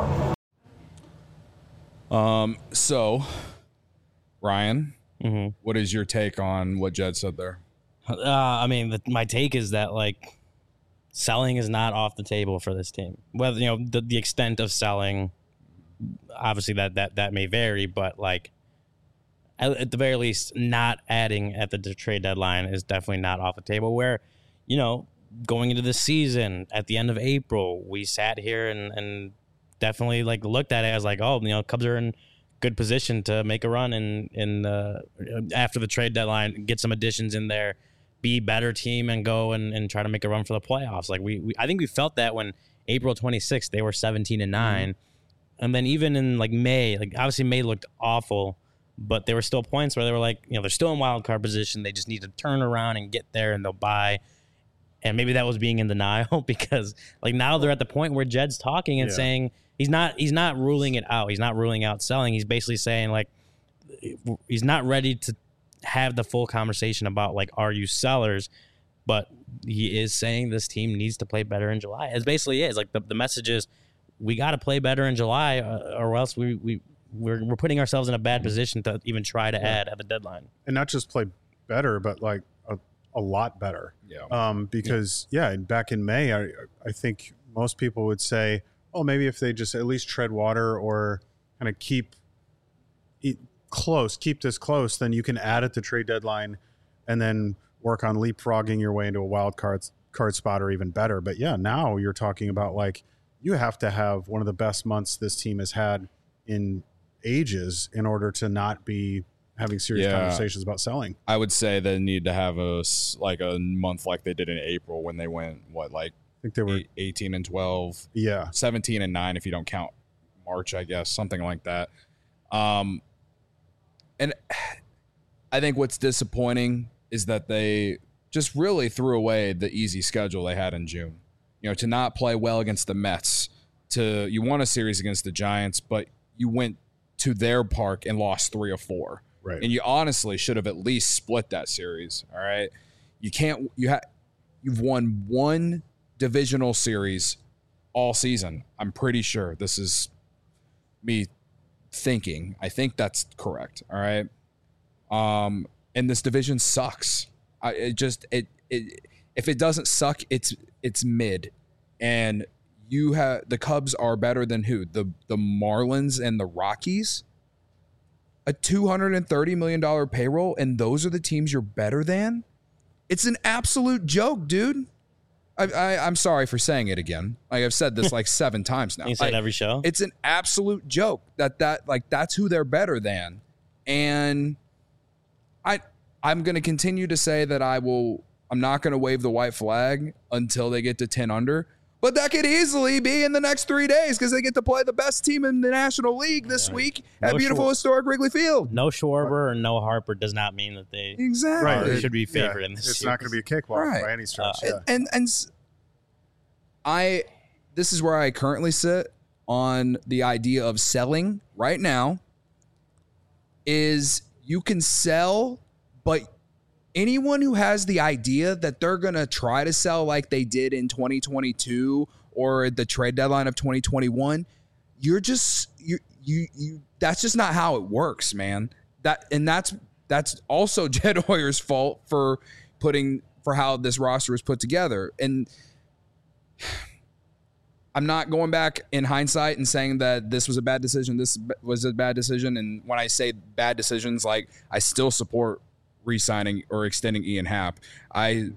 corner. So, Ryan, what is your take on what Jed said there? My take is that, like, selling is not off the table for this team. Whether the extent of selling, obviously that may vary, but like at the very least, not adding at the trade deadline is definitely not off the table. Where going into the season at the end of April, we sat here and definitely looked at it as like, Cubs are in good position to make a run in after the trade deadline, get some additions in there, be a better team, and go and try to make a run for the playoffs. Like I think we felt that when April 26th they were 17-9, and then even in May, obviously May looked awful, but there were still points where they were they're still in wild card position. They just need to turn around and get there, and they'll buy. And maybe that was being in denial because like now they're at the point where Jed's talking and saying he's not ruling it out. He's not ruling out selling. He's basically saying like he's not ready to have the full conversation about like, are you sellers? But he is saying this team needs to play better in July. It basically is like the message is we got to play better in July or else we're putting ourselves in a bad position to even try to add at the deadline. And not just play better, but like a lot better. Because back in May, I think most people would say, oh, maybe if they just at least tread water or kind of keep this close, then you can add at the trade deadline and then work on leapfrogging your way into a wild card spot or even better. But now you're talking about like you have to have one of the best months this team has had in ages in order to not be having serious conversations about selling. I would say they need to have a month like they did in April when they went I think they were 18 and 12, 17 and 9 if you don't count March, I guess, something like that. And I think what's disappointing is that they just really threw away the easy schedule they had in June. To not play well against the Mets, you won a series against the Giants, but you went to their park and lost 3 of 4. Right. And you honestly should have at least split that series. All right. You've won one divisional series all season. I'm pretty sure this is me thinking. I think that's correct. All right. And this division sucks. If it doesn't suck, it's mid. And the Cubs are better than who? The Marlins and the Rockies? A $230 million payroll, and those are the teams you're better than? It's an absolute joke, dude. I'm sorry for saying it again. Like I've said this like 7 times now. You say it every show. It's an absolute joke that's who they're better than. And I'm going to continue to say that I'm not going to wave the white flag until they get to 10 under. But that could easily be in the next 3 days because they get to play the best team in the National League this week at beautiful historic Wrigley Field. No Schwarber or no Harper does not mean that they should be favored in this. It's not going to be a cakewalk by any stretch. And this is where I currently sit on the idea of selling right now. Is you can sell, but anyone who has the idea that they're going to try to sell like they did in 2022 or the trade deadline of 2021, that's just not how it works, man. That's also Jed Hoyer's fault for how this roster was put together. And I'm not going back in hindsight and saying that this was a bad decision. This was a bad decision. And when I say bad decisions, like I still support re-signing or extending Ian Happ. I'm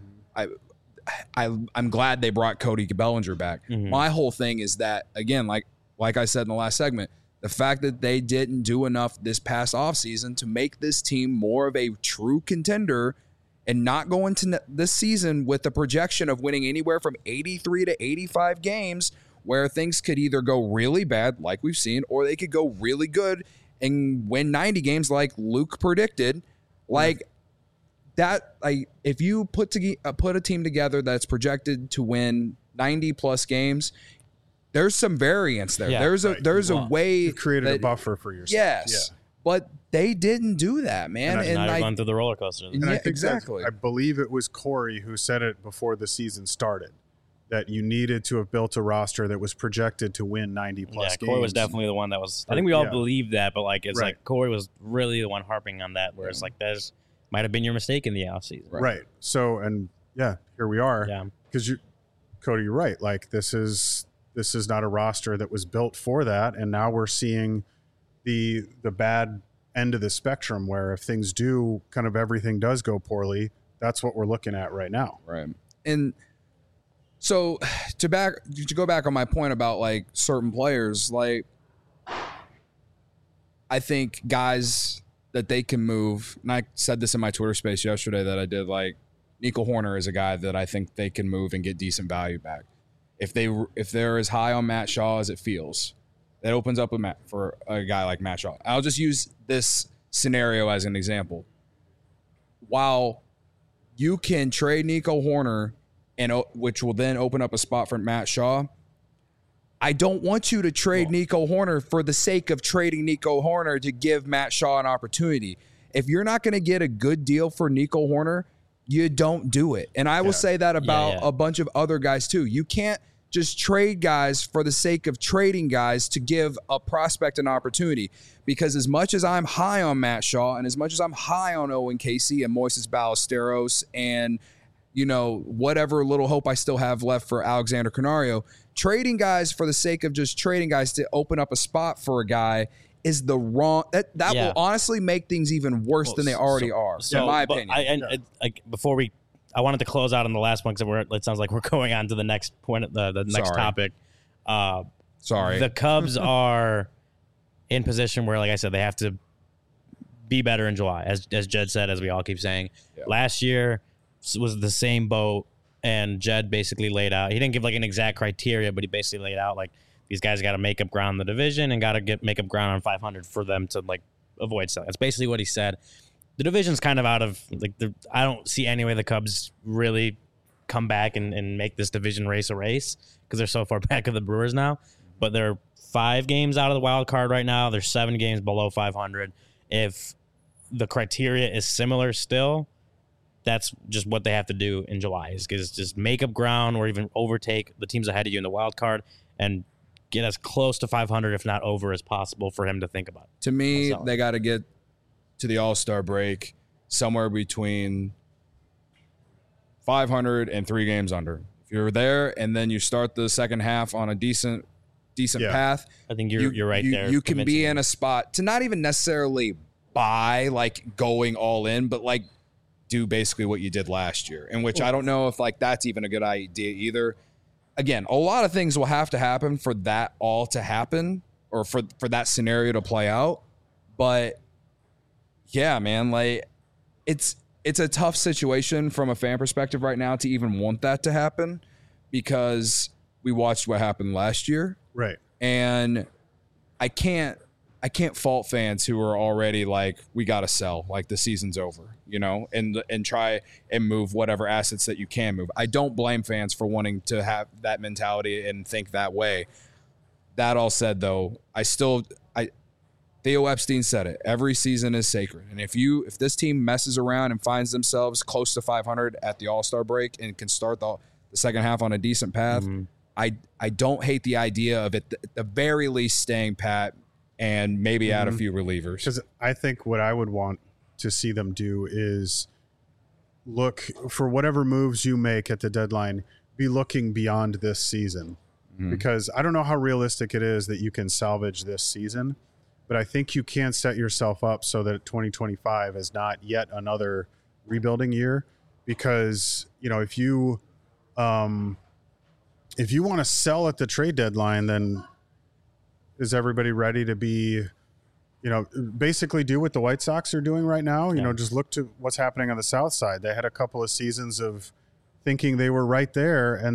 glad they brought Cody Bellinger back. Mm-hmm. My whole thing is that, again, like I said in the last segment, the fact that they didn't do enough this past offseason to make this team more of a true contender and not go into this season with the projection of winning anywhere from 83 to 85 games where things could either go really bad like we've seen or they could go really good and win 90 games like Luke predicted. Like that, like if you put a team together that's projected to win 90 plus games, there's some variance there. Yeah, there's a way you created a buffer for yourself. Yes, but they didn't do that, man. And now you're going through the roller coaster. And I think exactly. I believe it was Corey who said it before the season started, that you needed to have built a roster that was projected to win 90 plus games. Corey was definitely the one that was. I think we all believed that, but like it's like Corey was really the one harping on that. Where it's like there's might have been your mistake in the offseason. Right. So here we are. Yeah. Because Cody, you're right. Like this is not a roster that was built for that, and now we're seeing the bad end of the spectrum where if things do kind of everything does go poorly, that's what we're looking at right now. Right. And so to go back on my point about like certain players, like I think guys that they can move, and I said this in my Twitter space yesterday that I did, like Nico Hoerner is a guy that I think they can move and get decent value back. If they're as high on Matt Shaw as it feels, that opens up for a guy like Matt Shaw. I'll just use this scenario as an example. While you can trade Nico Hoerner and which will then open up a spot for Matt Shaw. I don't want you to trade Nico Horner for the sake of trading Nico Horner to give Matt Shaw an opportunity. If you're not going to get a good deal for Nico Horner, you don't do it. And I will say that about a bunch of other guys too. You can't just trade guys for the sake of trading guys to give a prospect an opportunity. Because as much as I'm high on Matt Shaw and as much as I'm high on Owen Casey and Moises Ballesteros and, you know, whatever little hope I still have left for Alexander Canario, trading guys for the sake of just trading guys to open up a spot for a guy is the wrong. That will honestly make things even worse than they already are, in my opinion. I wanted to close out on the last one because it sounds like we're going on to the next point, the next topic. Sorry. The Cubs are in position where, like I said, they have to be better in July, as Jed said, as we all keep saying. Yeah. Last year was the same boat, and Jed basically laid out. He didn't give like an exact criteria, but he basically laid out like these guys got to make up ground in the division and got to make up ground on 500 for them to like avoid selling. That's basically what he said. The division's kind of out of like I don't see any way the Cubs really come back and make this division race a race because they're so far back of the Brewers now. But they're 5 games out of the wild card right now. They're 7 games below 500. If the criteria is similar still, that's just what they have to do in July is just make up ground or even overtake the teams ahead of you in the wild card and get as close to 500, if not over, as possible for him to think about. To me, they got to get to the All-Star break somewhere between 500 and 3 games under. If you're there and then you start the second half on a decent path, I think you're right there. You can be in a spot to not even necessarily buy, like going all in, but like do basically what you did last year, in which I don't know if like that's even a good idea either. Again, a lot of things will have to happen for that all to happen or for that scenario to play out. But yeah, man, like it's a tough situation from a fan perspective right now to even want that to happen because we watched what happened last year. Right. And I can't fault fans who are already like, we got to sell, like the season's over, you know, and try and move whatever assets that you can move. I don't blame fans for wanting to have that mentality and think that way. That all said, though, Theo Epstein said it. Every season is sacred. And if this team messes around and finds themselves close to 500 at the All-Star break and can start the second half on a decent path, I don't hate the idea of it at the very least staying pat and maybe add a few relievers. Because I think what I would want to see them do is look for whatever moves you make at the deadline, be looking beyond this season. Because I don't know how realistic it is that you can salvage this season, but I think you can set yourself up so that 2025 is not yet another rebuilding year. Because, you know, if you want to sell at the trade deadline, then is everybody ready to be, you know, basically do what the White Sox are doing right now? You know, just look to what's happening on the South Side. They had a couple of seasons of thinking they were right there, and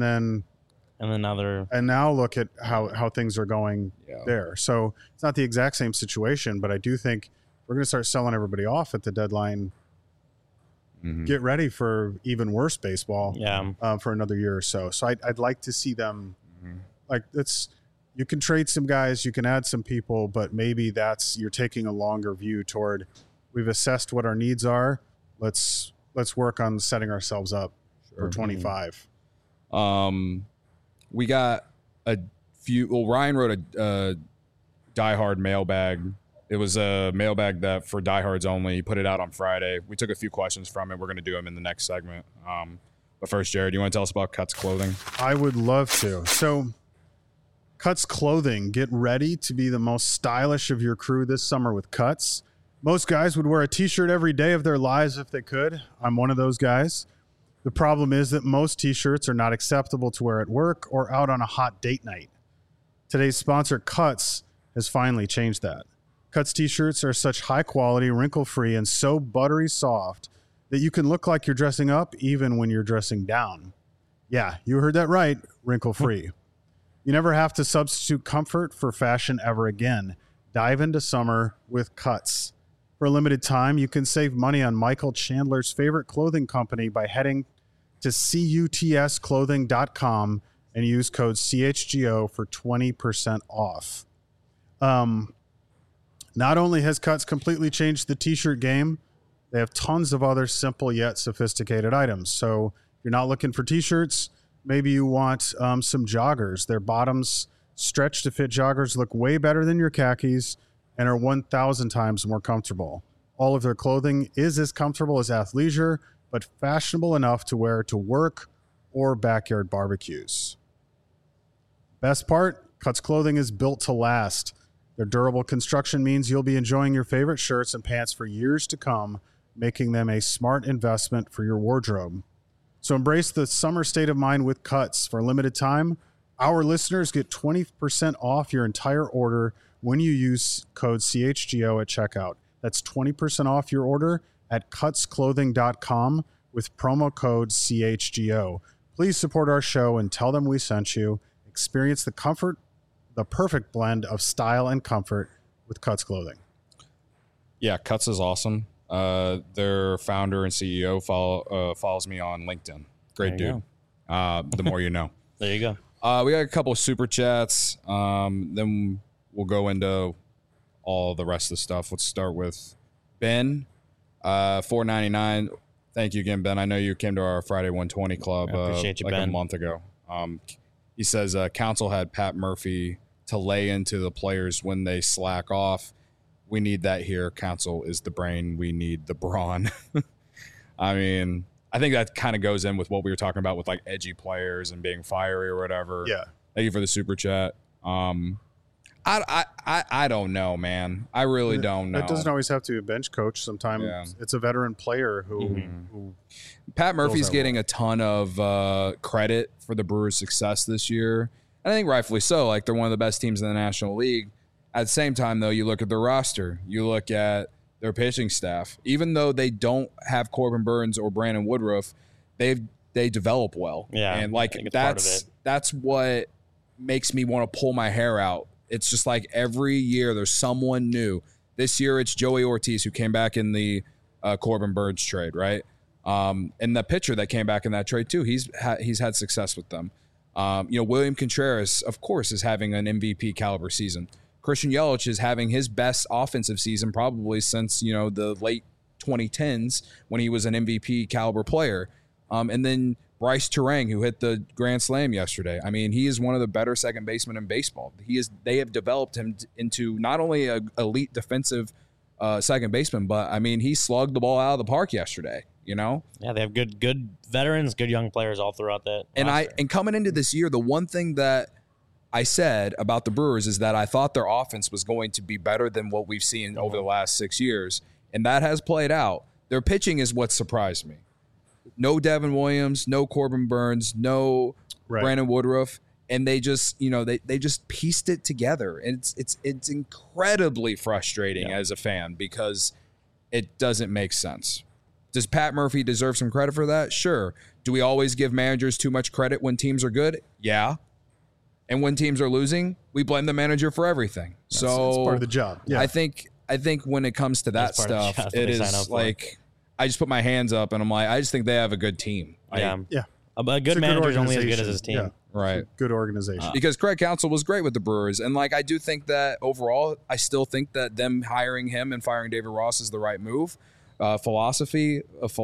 now look at how things are going there. So it's not the exact same situation, but I do think we're going to start selling everybody off at the deadline. Get ready for even worse baseball for another year or so. So I'd like to see them like you can trade some guys, you can add some people, but maybe you're taking a longer view toward we've assessed what our needs are. Let's work on setting ourselves up for 25. We got a few. Well, Ryan wrote a diehard mailbag. It was a mailbag that for diehards only. He put it out on Friday. We took a few questions from it. We're going to do them in the next segment. But first, Jared, you want to tell us about Cuts Clothing? I would love to. So, Cuts Clothing. Get ready to be the most stylish of your crew this summer with Cuts. Most guys would wear a T-shirt every day of their lives if they could. I'm one of those guys. The problem is that most T-shirts are not acceptable to wear at work or out on a hot date night. Today's sponsor, Cuts, has finally changed that. Cuts T-shirts are such high quality, wrinkle-free, and so buttery soft that you can look like you're dressing up even when you're dressing down. Yeah, you heard that right, wrinkle-free. You never have to substitute comfort for fashion ever again. Dive into summer with Cuts. For a limited time, you can save money on Michael Chandler's favorite clothing company by heading to cutsclothing.com and use code CHGO for 20% off. Not only has Cuts completely changed the t-shirt game, they have tons of other simple yet sophisticated items. So if you're not looking for t-shirts, maybe you want some joggers. Their bottoms stretch to fit joggers look way better than your khakis and are 1,000 times more comfortable. All of their clothing is as comfortable as athleisure, but fashionable enough to wear to work or backyard barbecues. Best part, Cuts clothing is built to last. Their durable construction means you'll be enjoying your favorite shirts and pants for years to come, making them a smart investment for your wardrobe. So embrace the summer state of mind with Cuts. For a limited time, our listeners get 20% off your entire order when you use code CHGO at checkout. That's 20% off your order at cutsclothing.com with promo code CHGO. Please support our show and tell them we sent you. Experience the perfect blend of style and comfort with Cuts clothing. Yeah, Cuts is awesome. Their founder and CEO follows me on LinkedIn. Great dude. The more you know. There you go. We got a couple of super chats. Then we'll go into all the rest of the stuff. Let's start with Ben, $4.99. Thank you again, Ben. I know you came to our Friday 120 club appreciate you, Ben. a month ago. He says Council had Pat Murphy to lay into the players when they slack off. We need that here. Council is the brain. We need the brawn. I mean, I think that kind of goes in with what we were talking about with like edgy players and being fiery or whatever. Yeah. Thank you for the super chat. I don't know, man. I really don't know. It doesn't always have to be a bench coach. Sometimes it's a veteran player who Pat Murphy's getting a ton of credit for the Brewers' success this year. And I think rightfully so. Like, they're one of the best teams in the National League. At the same time, though, you look at their roster. You look at their pitching staff. Even though they don't have Corbin Burns or Brandon Woodruff, they develop well. Yeah, and like that's what makes me want to pull my hair out. It's just like every year there's someone new. This year it's Joey Ortiz, who came back in the Corbin Burns trade, right? And the pitcher that came back in that trade too, he's had success with them. William Contreras, of course, is having an MVP caliber season. Christian Yelich is having his best offensive season probably since, the late 2010s when he was an MVP caliber player. And then Bryce Turang, who hit the grand slam yesterday. I mean, he is one of the better second basemen in baseball. They have developed him into not only an elite defensive second baseman, but I mean, he slugged the ball out of the park yesterday. Yeah, they have good veterans, good young players all throughout that. And coming into this year, the one thing that I said about the Brewers is that I thought their offense was going to be better than what we've seen over the last 6 years, and that has played out. Their pitching is what surprised me. No Devin Williams, no Corbin Burns, no Brandon Woodruff, and they just, they just pieced it together. And it's incredibly frustrating as a fan because it doesn't make sense. Does Pat Murphy deserve some credit for that? Sure. Do we always give managers too much credit when teams are good? Yeah. And when teams are losing, we blame the manager for everything. It's part of the job. Yeah. I think when it comes to that stuff, it is like I just put my hands up and I'm like, I just think they have a good team. A good manager is only as good as his team. Yeah. Right. Good organization. Because Craig Counsell was great with the Brewers. And I do think that overall, I still think that them hiring him and firing David Ross is the right move. Philosophically,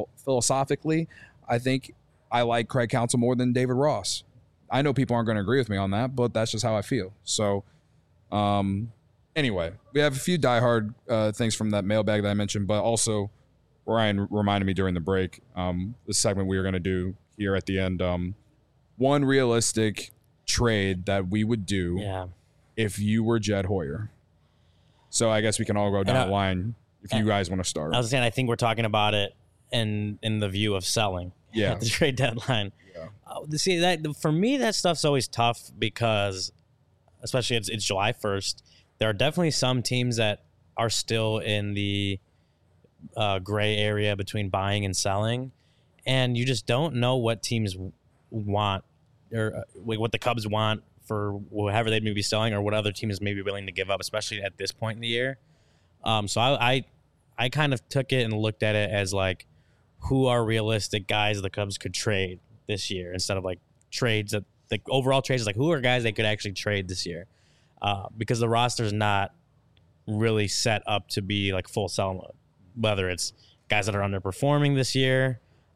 I think I like Craig Counsell more than David Ross. I know people aren't going to agree with me on that, but that's just how I feel. So, anyway, we have a few diehard things from that mailbag that I mentioned, but also Ryan reminded me during the break, the segment we were going to do here at the end, one realistic trade that we would do if you were Jed Hoyer. So I guess we can all go down the line if you guys want to start. I was saying, I think we're talking about it in the view of selling at the trade deadline. See, that for me, that stuff's always tough because, especially it's July 1st, there are definitely some teams that are still in the gray area between buying and selling, and you just don't know what teams want or what the Cubs want for whatever they may be selling or what other teams may be willing to give up, especially at this point in the year. So I kind of took it and looked at it as like, who are realistic guys the Cubs could trade? this year instead of like trades that like overall trades. Like who are guys they could actually trade this year? Because the roster's not really set up to be like full sell mode. Whether it's guys that are underperforming this year,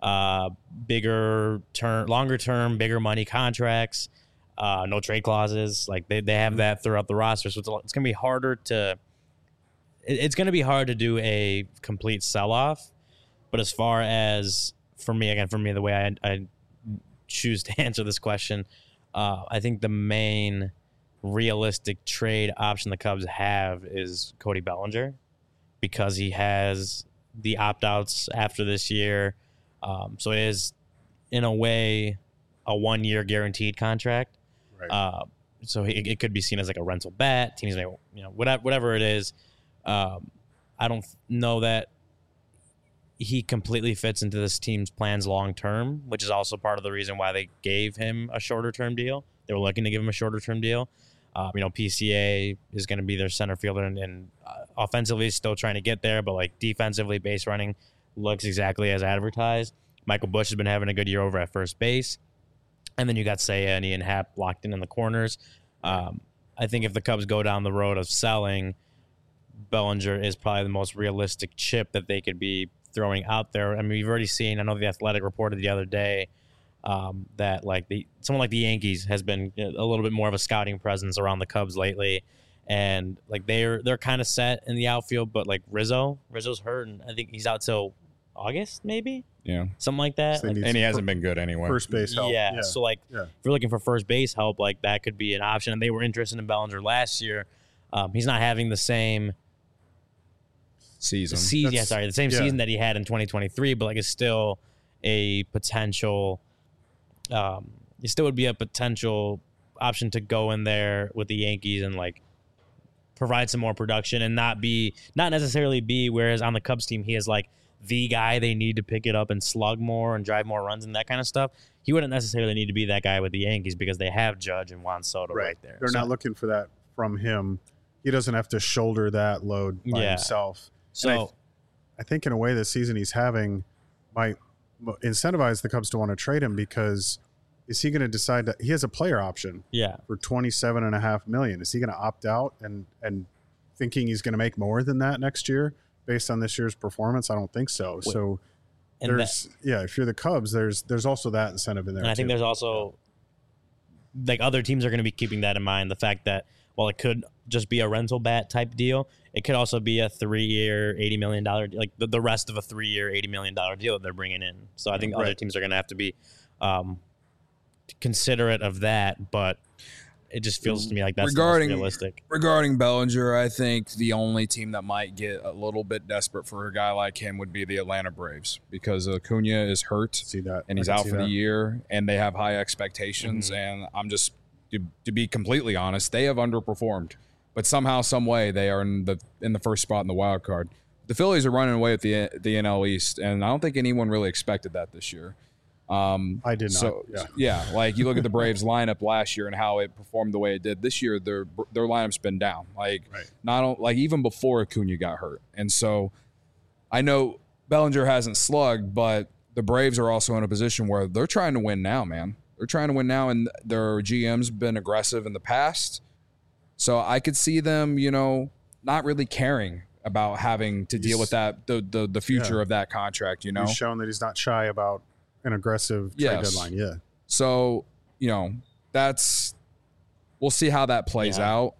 longer term, bigger money contracts, no trade clauses. Like they have that throughout the roster, so it's going to be harder to. It's going to be hard to do a complete sell off. But as far as for me, the way I choose to answer this question, I think the main realistic trade option the Cubs have is Cody Bellinger, because he has the opt-outs after this year. So it is, in a way, a 1-year guaranteed contract. Right. So it could be seen as like a rental bat. Teams may, whatever it is. I don't know that he completely fits into this team's plans long-term, which is also part of the reason why they gave him a shorter-term deal. They were looking to give him a shorter-term deal. PCA is going to be their center fielder, and offensively is still trying to get there, but like defensively, base running looks exactly as advertised. Michael Busch has been having a good year over at first base. And then you got Seiya and Ian Happ locked in the corners. I think if the Cubs go down the road of selling, Bellinger is probably the most realistic chip that they could be throwing out there. I mean, we've already seen, I know The Athletic reported the other day that like someone like the Yankees has been a little bit more of a scouting presence around the Cubs lately, and like they're kind of set in the outfield, but like Rizzo's hurt, and I think he's out till August maybe, something like that. So and he hasn't been good anyway. First base help. Yeah. So like if you're looking for first base help, like that could be an option. And they were interested in Bellinger last year. He's not having the same season. The same season that he had in 2023, but like it's still a potential. It still would be a potential option to go in there with the Yankees and like provide some more production and not necessarily be. Whereas on the Cubs team, he is like the guy they need to pick it up and slug more and drive more runs and that kind of stuff. He wouldn't necessarily need to be that guy with the Yankees because they have Judge and Juan Soto right there. They're not looking for that from him. He doesn't have to shoulder that load by himself. So I think in a way this season he's having might incentivize the Cubs to want to trade him, because is he going to decide that he has a player option for $27.5 million? Is he going to opt out and thinking he's going to make more than that next year based on this year's performance? I don't think so. So there's if you're the Cubs, there's also that incentive in there. And I think there's also like other teams are going to be keeping that in mind. The fact that while it could just be a rental bat type deal, it could also be a 3-year, $80 million, like the rest of a 3-year, $80 million deal that they're bringing in. So I think other teams are going to have to be considerate of that, but it just feels to me like that's the most realistic. Regarding Bellinger, I think the only team that might get a little bit desperate for a guy like him would be the Atlanta Braves, because Acuna is hurt and he's out for the year, and they have high expectations. And I'm just, to be completely honest, they have underperformed, but somehow, some way, they are in the first spot in the wild card. The Phillies are running away with the NL East, and I don't think anyone really expected that this year. I did not. Like you look at the Braves lineup last year and how it performed the way it did. This year, their lineup's been down. Like even before Acuna got hurt, and so I know Bellinger hasn't slugged, but the Braves are also in a position where they're trying to win now, man. They're trying to win now, and their GM's been aggressive in the past, so I could see them, not really caring about having to deal with that the future of that contract. He's shown that he's not shy about an aggressive trade deadline. So, we'll see how that plays out.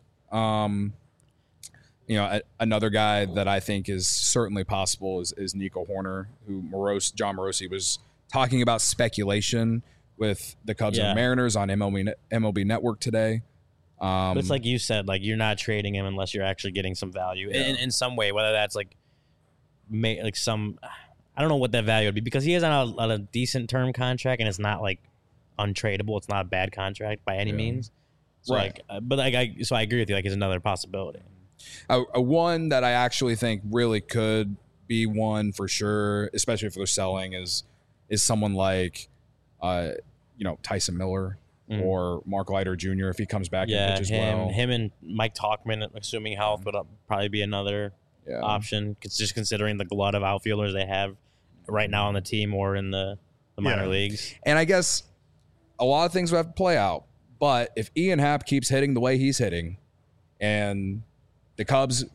Another guy that I think is certainly possible is Nico Horner, who John Morosi was talking about speculation with the Cubs and Mariners on MLB Network today. But it's like you said, like you're not trading him unless you're actually getting some value in some way, whether that's like some. I don't know what that value would be, because he is on a decent term contract and it's not like untradeable. It's not a bad contract by any means. So I agree with you. Like, it's another possibility. A one that I actually think really could be one for sure, especially if they're selling, is someone like, Tyson Miller or Mark Leiter Jr. if he comes back and pitches well. Him and Mike Tauchman, assuming health, would probably be another option. It's just considering the glut of outfielders they have right now on the team or in the the minor leagues. And I guess a lot of things will have to play out. But if Ian Happ keeps hitting the way he's hitting, and the Cubs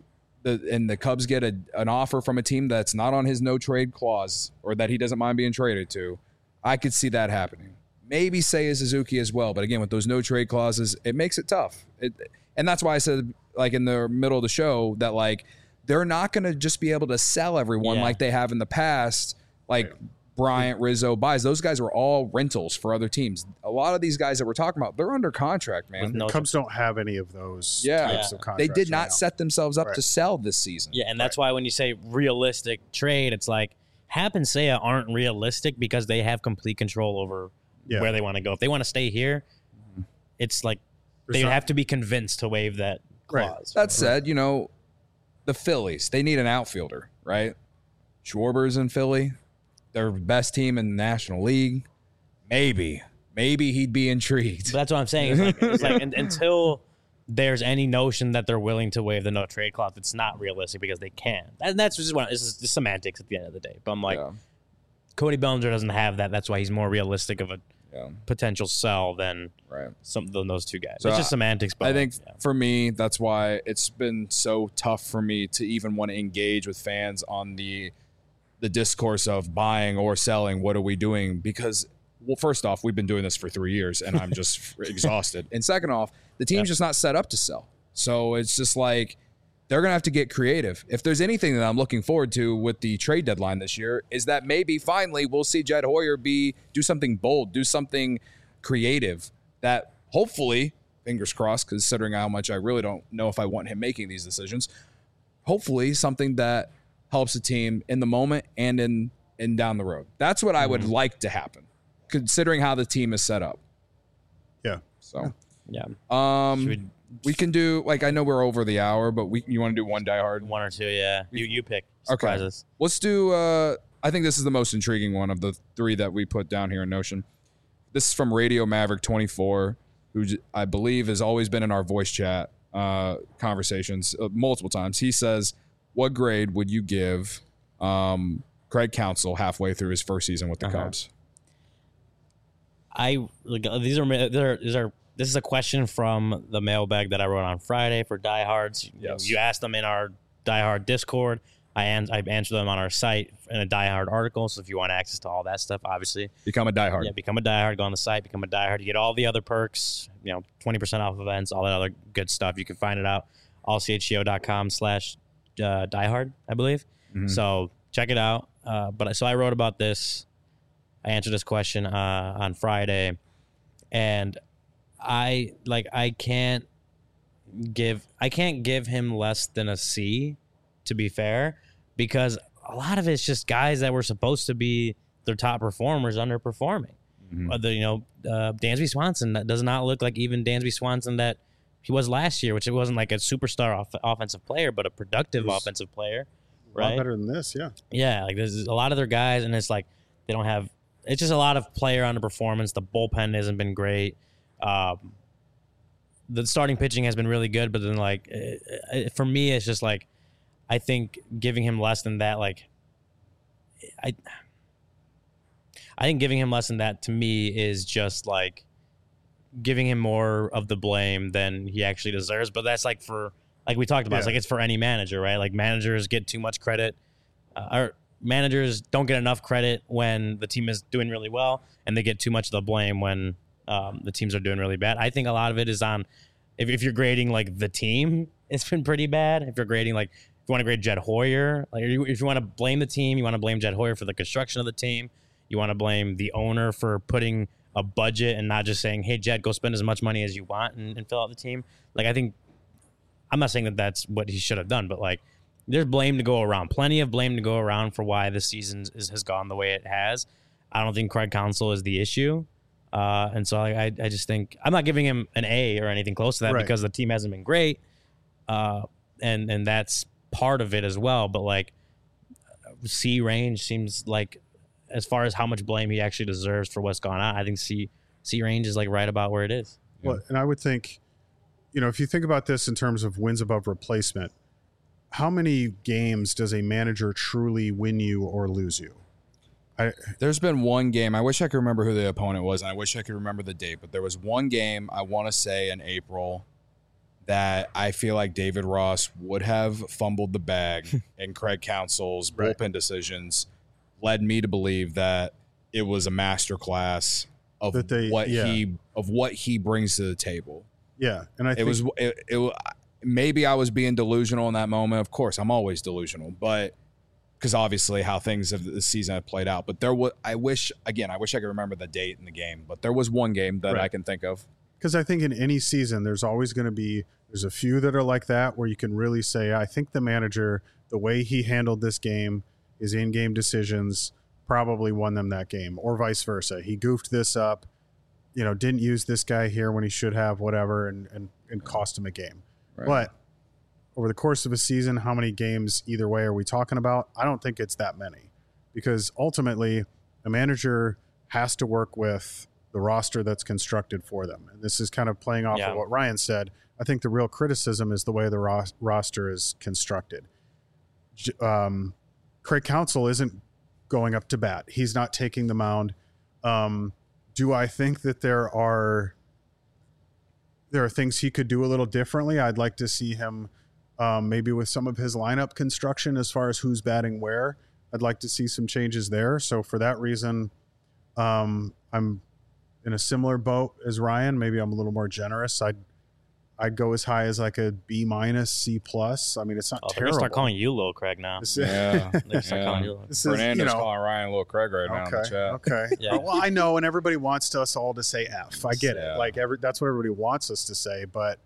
get an offer from a team that's not on his no trade clause or that he doesn't mind being traded to, I could see that happening. Maybe Seiya Suzuki as well. But again, with those no trade clauses, it makes it tough. And that's why I said, like, in the middle of the show that, like, they're not going to just be able to sell everyone like they have in the past. Like Bryant, Rizzo, Baez, those guys were all rentals for other teams. A lot of these guys that we're talking about, they're under contract, man. The Cubs don't have any of those types of contracts. They did not set themselves up to sell this season. Yeah, and that's why when you say realistic trade, it's like Happ and Seiya aren't realistic because they have complete control over where they want to go. If they want to stay here, it's like they have to be convinced to waive that clause. That said, you know, the Phillies, they need an outfielder, right? Schwarber's in Philly. Their best team in the National League. Maybe he'd be intrigued. But that's what I'm saying. It's like until there's any notion that they're willing to waive the no trade clause, it's not realistic because they can. And that's just it's just semantics at the end of the day. But I'm like, Cody Bellinger doesn't have that. That's why he's more realistic of a potential sell than those two guys. So it's just semantics. But I think for me, that's why it's been so tough for me to even want to engage with fans on the discourse of buying or selling. What are we doing? Because, well, first off, we've been doing this for 3 years and I'm just exhausted. And second off, the team's just not set up to sell. So it's just like they're going to have to get creative. If there's anything that I'm looking forward to with the trade deadline this year is that maybe finally we'll see Jed Hoyer do something bold, do something creative that hopefully, fingers crossed, considering how much I really don't know if I want him making these decisions, hopefully something that helps the team in the moment and in down the road. That's what I would like to happen, considering how the team is set up. Yeah. So, we can do, like, I know we're over the hour, but you want to do one Die Hard? One or two, yeah. You pick. Surprises. Okay. Let's do, I think this is the most intriguing one of the three that we put down here in Notion. This is from Radio Maverick 24, who I believe has always been in our voice chat conversations multiple times. He says, what grade would you give Craig Counsell halfway through his first season with the Cubs? This is a question from the mailbag that I wrote on Friday for diehards. Yes. You asked them in our diehard Discord. I answered them on our site in a diehard article. So if you want access to all that stuff, obviously become a diehard. Yeah, become a diehard. Go on the site, become a diehard. You get all the other perks. 20% off events, all that other good stuff. You can find it out allchgo.com/diehard, I believe. Mm-hmm. So check it out. So I wrote about this. I answered this question on Friday, and I can't give him less than a C, to be fair, because a lot of it's just guys that were supposed to be their top performers underperforming. Mm-hmm. Dansby Swanson, that does not look like even Dansby Swanson that he was last year, which it wasn't like a superstar offensive player, but a productive offensive player. Right? A lot better than this, yeah. Yeah, like there's a lot of their guys, and it's like they don't have. It's just a lot of player underperformance. The bullpen hasn't been great. The starting pitching has been really good, but then for me, it's just like I think giving him less than that, I think giving him less than that to me is just like giving him more of the blame than he actually deserves. But that's like we talked about, it's like it's for any manager, right? Like managers get too much credit, or managers don't get enough credit when the team is doing really well, and they get too much of the blame when the teams are doing really bad. I think a lot of it is on if you're grading like the team, it's been pretty bad. If you're grading if you want to grade Jed Hoyer, if you want to blame the team, you want to blame Jed Hoyer for the construction of the team. You want to blame the owner for putting a budget and not just saying, hey, Jed, go spend as much money as you want and fill out the team. I think I'm not saying that that's what he should have done, but there's blame to go around. Plenty of blame to go around for why this season has gone the way it has. I don't think Craig Counsell is the issue. And so I just think I'm not giving him an A or anything close to that because the team hasn't been great. And that's part of it as well. But C range seems like, as far as how much blame he actually deserves for what's gone on, I think C range is right about where it is. Well, and I would think, if you think about this in terms of wins above replacement, how many games does a manager truly win you or lose you? There's been one game. I wish I could remember who the opponent was, and I wish I could remember the date. But there was one game I want to say in April that I feel like David Ross would have fumbled the bag, and Craig Counsell's bullpen decisions led me to believe that it was a masterclass of what he brings to the table. Yeah, and I think it maybe I was being delusional in that moment. Of course, I'm always delusional, but because obviously how things of the season have played out. But I wish I could remember the date in the game. But there was one game that I can think of. Because I think in any season, there's always going to be there's a few that are like that where you can really say, I think the manager, the way he handled this game, his in-game decisions probably won them that game, or vice versa. He goofed this up, didn't use this guy here when he should have, whatever, and cost him a game. Right. But over the course of a season, how many games either way are we talking about? I don't think it's that many, because ultimately a manager has to work with the roster that's constructed for them. And this is kind of playing off of what Ryan said. I think the real criticism is the way the roster is constructed. Craig Counsell isn't going up to bat. He's not taking the mound. Do I think that there are things he could do a little differently? I'd like to see him maybe with some of his lineup construction as far as who's batting where. I'd like to see some changes there. So for that reason, I'm in a similar boat as Ryan. Maybe I'm a little more generous. I'd go as high as like a B-, C+. I mean, it's not terrible. They're going to start calling you Lil Craig now. Yeah. They're start calling you Lil. Fernando's calling Ryan Lil Craig right now in the chat. Okay. Yeah. Well, I know, and everybody wants us all to say F. I get it. Like that's what everybody wants us to say, but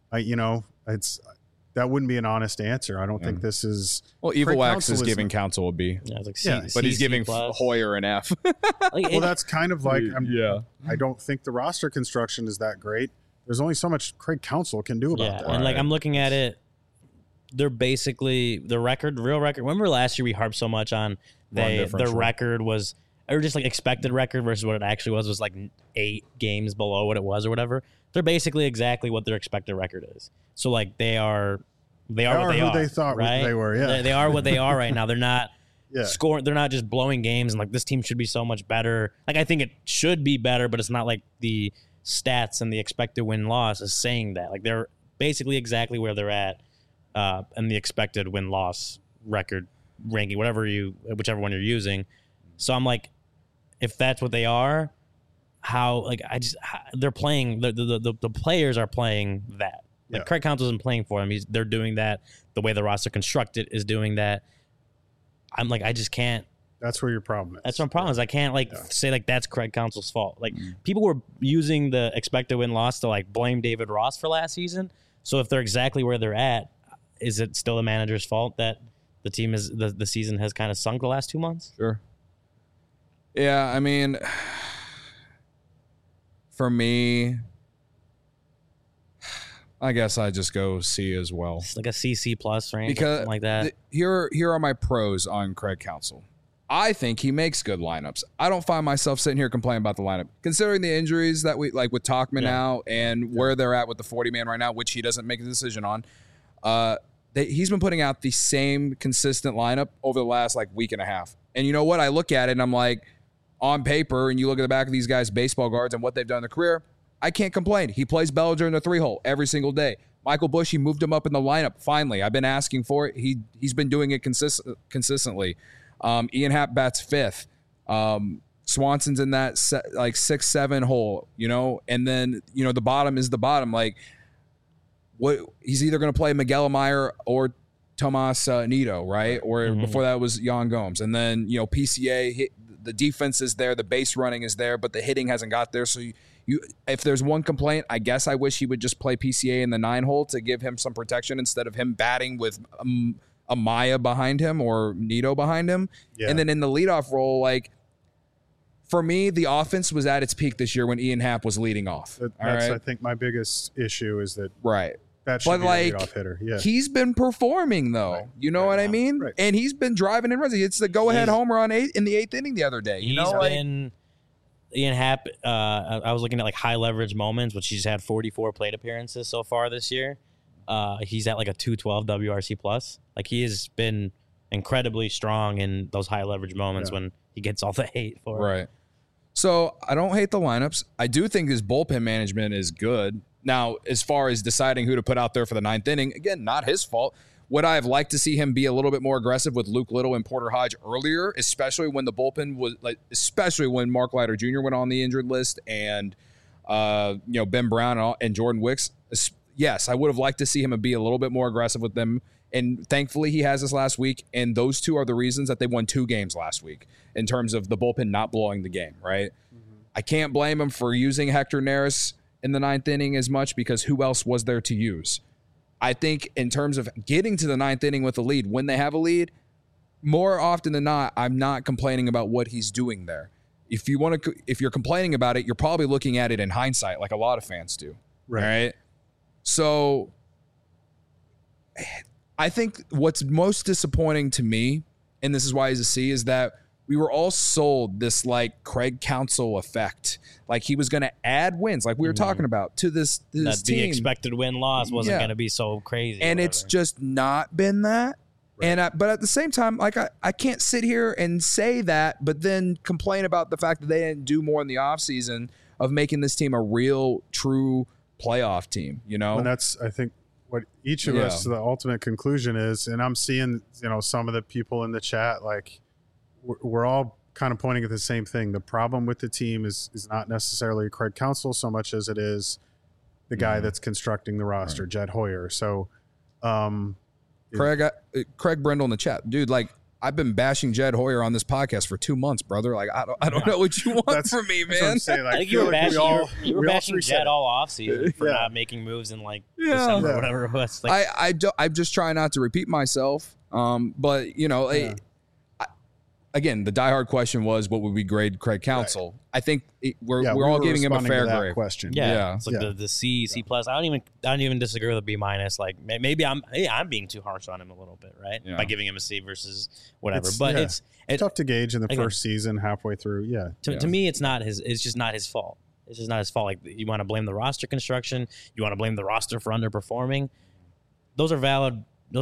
that wouldn't be an honest answer. I don't think this is. Well, Evil Wax is giving Counsell a B. Yeah, it's like but he's giving Hoyer an F. Well, that's kind of like I don't think the roster construction is that great. There's only so much Craig Counsell can do about that. And I'm looking at it. They're basically the real record. Remember last year we harped so much on their record was, or just like expected record versus what it actually was like 8 games below what it was or whatever. They're basically exactly what their expected record is. So like they are what they are. They thought right? they were. Yeah, they are what they are right now. They're not scoring. They're not just blowing games and like this team should be so much better. Like I think it should be better, but it's not like the stats and the expected win-loss is saying that. Like they're basically exactly where they're at, and the expected win-loss record ranking, whichever one you're using. So I'm like, if that's what they are, they're playing the players are playing that. Like Craig Counsell isn't playing for them. They're doing that. The way the roster constructed is doing that. I'm like, I just can't. That's where your problem is. That's my problem is I can't say like that's Craig Counsell's fault. Like people were using the expected win-loss to like blame David Ross for last season. So if they're exactly where they're at, is it still the manager's fault that the team is the season has kind of sunk the last 2 months? Sure. Yeah, I mean, for me, I guess I just go C as well. It's like a CC plus range, because something like that. Here are my pros on Craig Counsell. I think he makes good lineups. I don't find myself sitting here complaining about the lineup. Considering the injuries that we like with Tauchman out and where they're at with the 40-man right now, which he doesn't make a decision on, he's been putting out the same consistent lineup over the last like week and a half. And you know what? I look at it and I'm like, on paper, and you look at the back of these guys' baseball cards and what they've done in their career, I can't complain. He plays Bellinger in the 3-hole every single day. Michael Busch, he moved him up in the lineup. Finally, I've been asking for it. He's been doing it consistently. Ian Happ bats 5th. Swanson's in that 6-7 hole, and then the bottom is the bottom. Like, what he's either going to play Miguel Amaya or Tomas Nido, right? Or before that was Yan Gomes, and then PCA. The defense is there, the base running is there, but the hitting hasn't got there. So if there's one complaint, I guess I wish he would just play PCA in the 9-hole to give him some protection instead of him batting with Amaya behind him or Nido behind him. Yeah. And then in the leadoff role, like, for me, the offense was at its peak this year when Ian Happ was leading off. That's, I think, my biggest issue is that that should but be like, a leadoff hitter. Yeah. He's been performing, though. Right. You know what I mean? Right. And he's been driving in runs. It's the go-ahead homer in the 8th inning the other day. Ian Happ, I was looking at like high leverage moments, which he's had 44 plate appearances so far this year. He's at like a 212 WRC plus. Like he has been incredibly strong in those high leverage moments when he gets all the hate for. Right. So I don't hate the lineups. I do think his bullpen management is good. Now, as far as deciding who to put out there for the 9th inning, again, not his fault. Would I have liked to see him be a little bit more aggressive with Luke Little and Porter Hodge earlier, especially when the bullpen was especially when Mark Leiter Jr. went on the injured list and Ben Brown and Jordan Wicks. Yes, I would have liked to see him be a little bit more aggressive with them. And thankfully, he has this last week. And those two are the reasons that they won 2 games last week in terms of the bullpen not blowing the game, right? Mm-hmm. I can't blame him for using Hector Neris in the 9th inning as much because who else was there to use? I think in terms of getting to the 9th inning with a lead, when they have a lead, more often than not, I'm not complaining about what he's doing there. If you're complaining about it, you're probably looking at it in hindsight, like a lot of fans do. Right? So I think what's most disappointing to me, and this is why he's a C, is that we were all sold this like Craig Counsell effect. Like he was going to add wins, like we were talking about, to this team. The expected win-loss wasn't going to be so crazy. And it's just not been that. Right. And but at the same time, like I can't sit here and say that, but then complain about the fact that they didn't do more in the offseason of making this team a real, true playoff team, And that's, I think, what each of us, the ultimate conclusion is, and I'm seeing, some of the people in the chat, like, we're all kind of pointing at the same thing. The problem with the team is not necessarily Craig Counsell so much as it is the guy that's constructing the roster, Jed Hoyer. So, Craig Brendel in the chat, dude. Like I've been bashing Jed Hoyer on this podcast for 2 months, brother. Like I don't know what you want from me, man. Saying, like, I think you were bashing Jed all offseason for not making moves in December or whatever it was. Like, I'm just trying not to repeat myself. But again, the diehard question was, what would we grade Craig Counsell? Right. I think we're all giving him a fair grade. Question. Yeah. It's like the C plus. I don't even disagree with a B minus. Like maybe I'm being too harsh on him a little bit, right? Yeah. By giving him a C versus whatever. It's tough to gauge in the first season, halfway through. Yeah. To me, it's just not his fault. It's just not his fault. Like you want to blame the roster construction, you want to blame the roster for underperforming. Those are valid.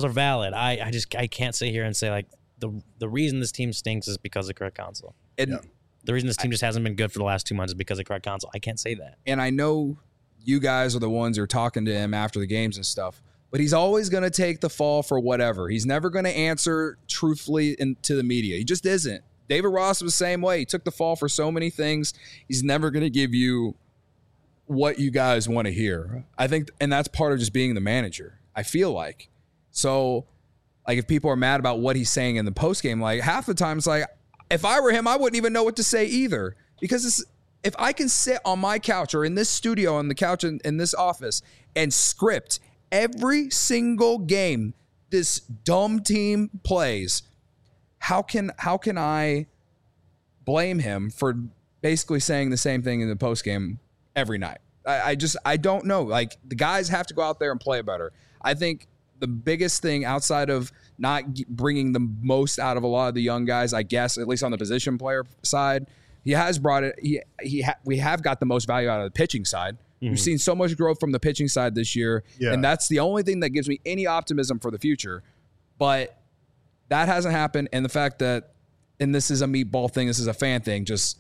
I can't sit here and say like the reason this team stinks is because of Craig Counsell. The reason this team just hasn't been good for the last 2 months is because of Craig Counsell. I can't say that. And I know you guys are the ones who are talking to him after the games and stuff, but he's always going to take the fall for whatever. He's never going to answer truthfully to the media. He just isn't. David Ross was the same way. He took the fall for so many things. He's never going to give you what you guys want to hear. I think, and that's part of just being the manager, I feel like. So, like, if people are mad about what he's saying in the postgame, like, half the time it's like, if I were him, I wouldn't even know what to say either. Because if I can sit on my couch or in this studio, on the couch in this office, and script every single game this dumb team plays, how can I blame him for basically saying the same thing in the postgame every night? I don't know. Like, the guys have to go out there and play better. I think the biggest thing outside of not bringing the most out of a lot of the young guys, I guess, at least on the position player side, he has brought it. We have got the most value out of the pitching side. Mm-hmm. We've seen so much growth from the pitching side this year, and that's the only thing that gives me any optimism for the future. But that hasn't happened, and the fact that, and this is a meatball thing, this is a fan thing, just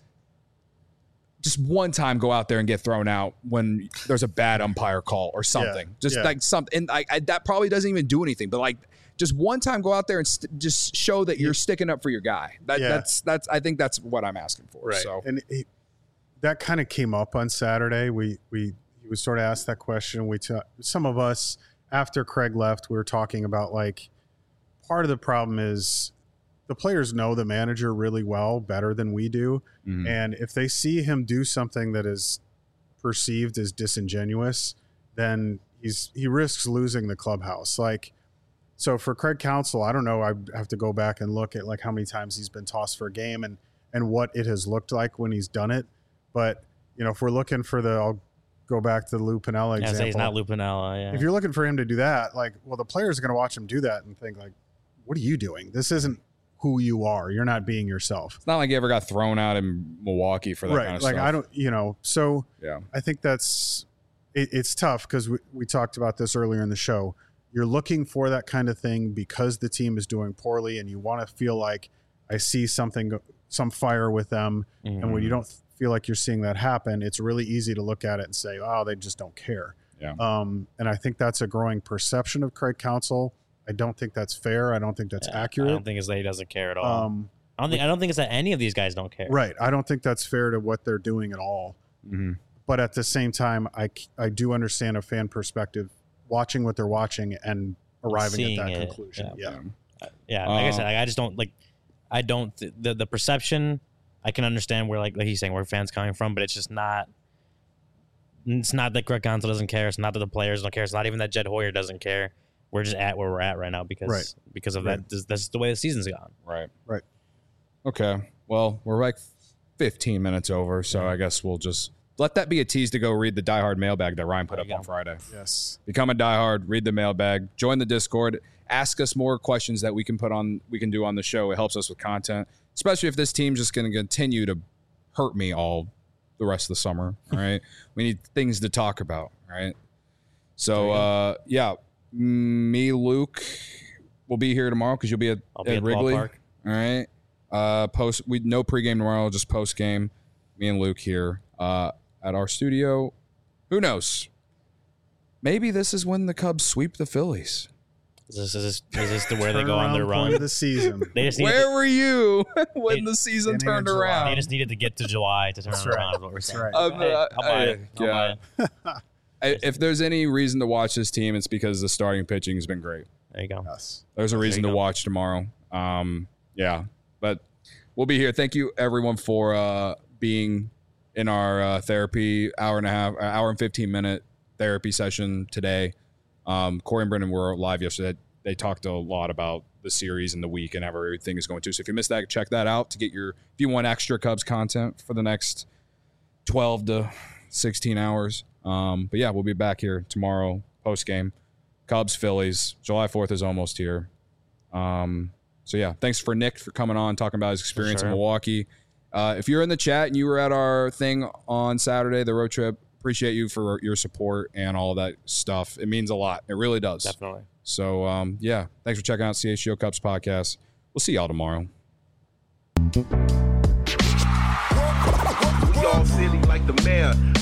one time go out there and get thrown out when there's a bad umpire call or something. Like something, and that probably doesn't even do anything. But like, just one time go out there and just show that you're sticking up for your guy. That's I think that's what I'm asking for. Right. So, and that kind of came up on Saturday. He was sort of asked that question. Some of us, after Craig left, we were talking about, like, part of the problem is the players know the manager really well, better than we do. Mm-hmm. And if they see him do something that is perceived as disingenuous, then he risks losing the clubhouse. Like, so for Craig Counsell, I don't know, I have to go back and look at like how many times he's been tossed for a game and what it has looked like when he's done it. But, if we're looking for I'll go back to the Lou Piniella example. Say he's not Lou Piniella, yeah. If you're looking for him to do that, like, well, the players are going to watch him do that and think, like, what are you doing? This isn't who you are. You're not being yourself. It's not like you ever got thrown out in Milwaukee for that kind of stuff. I don't, so yeah. I think it's tough because we talked about this earlier in the show. You're looking for that kind of thing because the team is doing poorly and you want to feel like I see something some fire with them. And when you don't feel like you're seeing that happen, it's really easy to look at it and say, oh, they just don't care. Yeah. And I think that's a growing perception of Craig Counsell. I don't think that's fair. I don't think that's accurate. I don't think it's that he doesn't care at all. I don't think it's that any of these guys don't care. Right. I don't think that's fair to what they're doing at all. But at the same time, I do understand a fan perspective, watching what they're watching and arriving at that conclusion. Yeah. Like I said, I just don't like. I don't the perception. I can understand where like he's saying where fans coming from, but it's just not. It's not that Craig Counsell doesn't care. It's not that the players don't care. It's not even that Jed Hoyer doesn't care. We're just at where we're at right now because of that. That's the way the season's gone. Right. Okay. Well, we're like 15 minutes over, so I guess we'll just let that be a tease to go read the Die Hard mailbag that Ryan put up on Friday. Yes. Become a Die Hard, read the mailbag, join the Discord, ask us more questions that we can do on the show. It helps us with content, especially if this team's just going to continue to hurt me all the rest of the summer. All right. We need things to talk about. Right. So, me, Luke, will be here tomorrow because you'll be at Wrigley. Ballpark. All right. No pregame tomorrow, just post game. Me and Luke here at our studio. Who knows? Maybe this is when the Cubs sweep the Phillies. Is this the where they go on their run of the season? Where were you when the season turned around? They just needed to get to July to turn around. That's right. I'll buy it. If there's any reason to watch this team, it's because the starting pitching has been great. There you go. Yes. There's a reason to watch tomorrow. But we'll be here. Thank you, everyone, for being in our therapy hour and 15-minute therapy session today. Corey and Brendan were live yesterday. They talked a lot about the series and the week and how everything is going to. So if you missed that, check that out if you want extra Cubs content for the next 12 to 16 hours. But yeah, we'll be back here tomorrow post game. Cubs, Phillies. July 4th is almost here. So yeah, thanks for Nick for coming on, talking about his experience in Milwaukee. If you're in the chat and you were at our thing on Saturday, the road trip, appreciate you for your support and all that stuff. It means a lot. It really does. Definitely. So, thanks for checking out CHGO Cubs podcast. We'll see y'all tomorrow. We all silly like the mayor.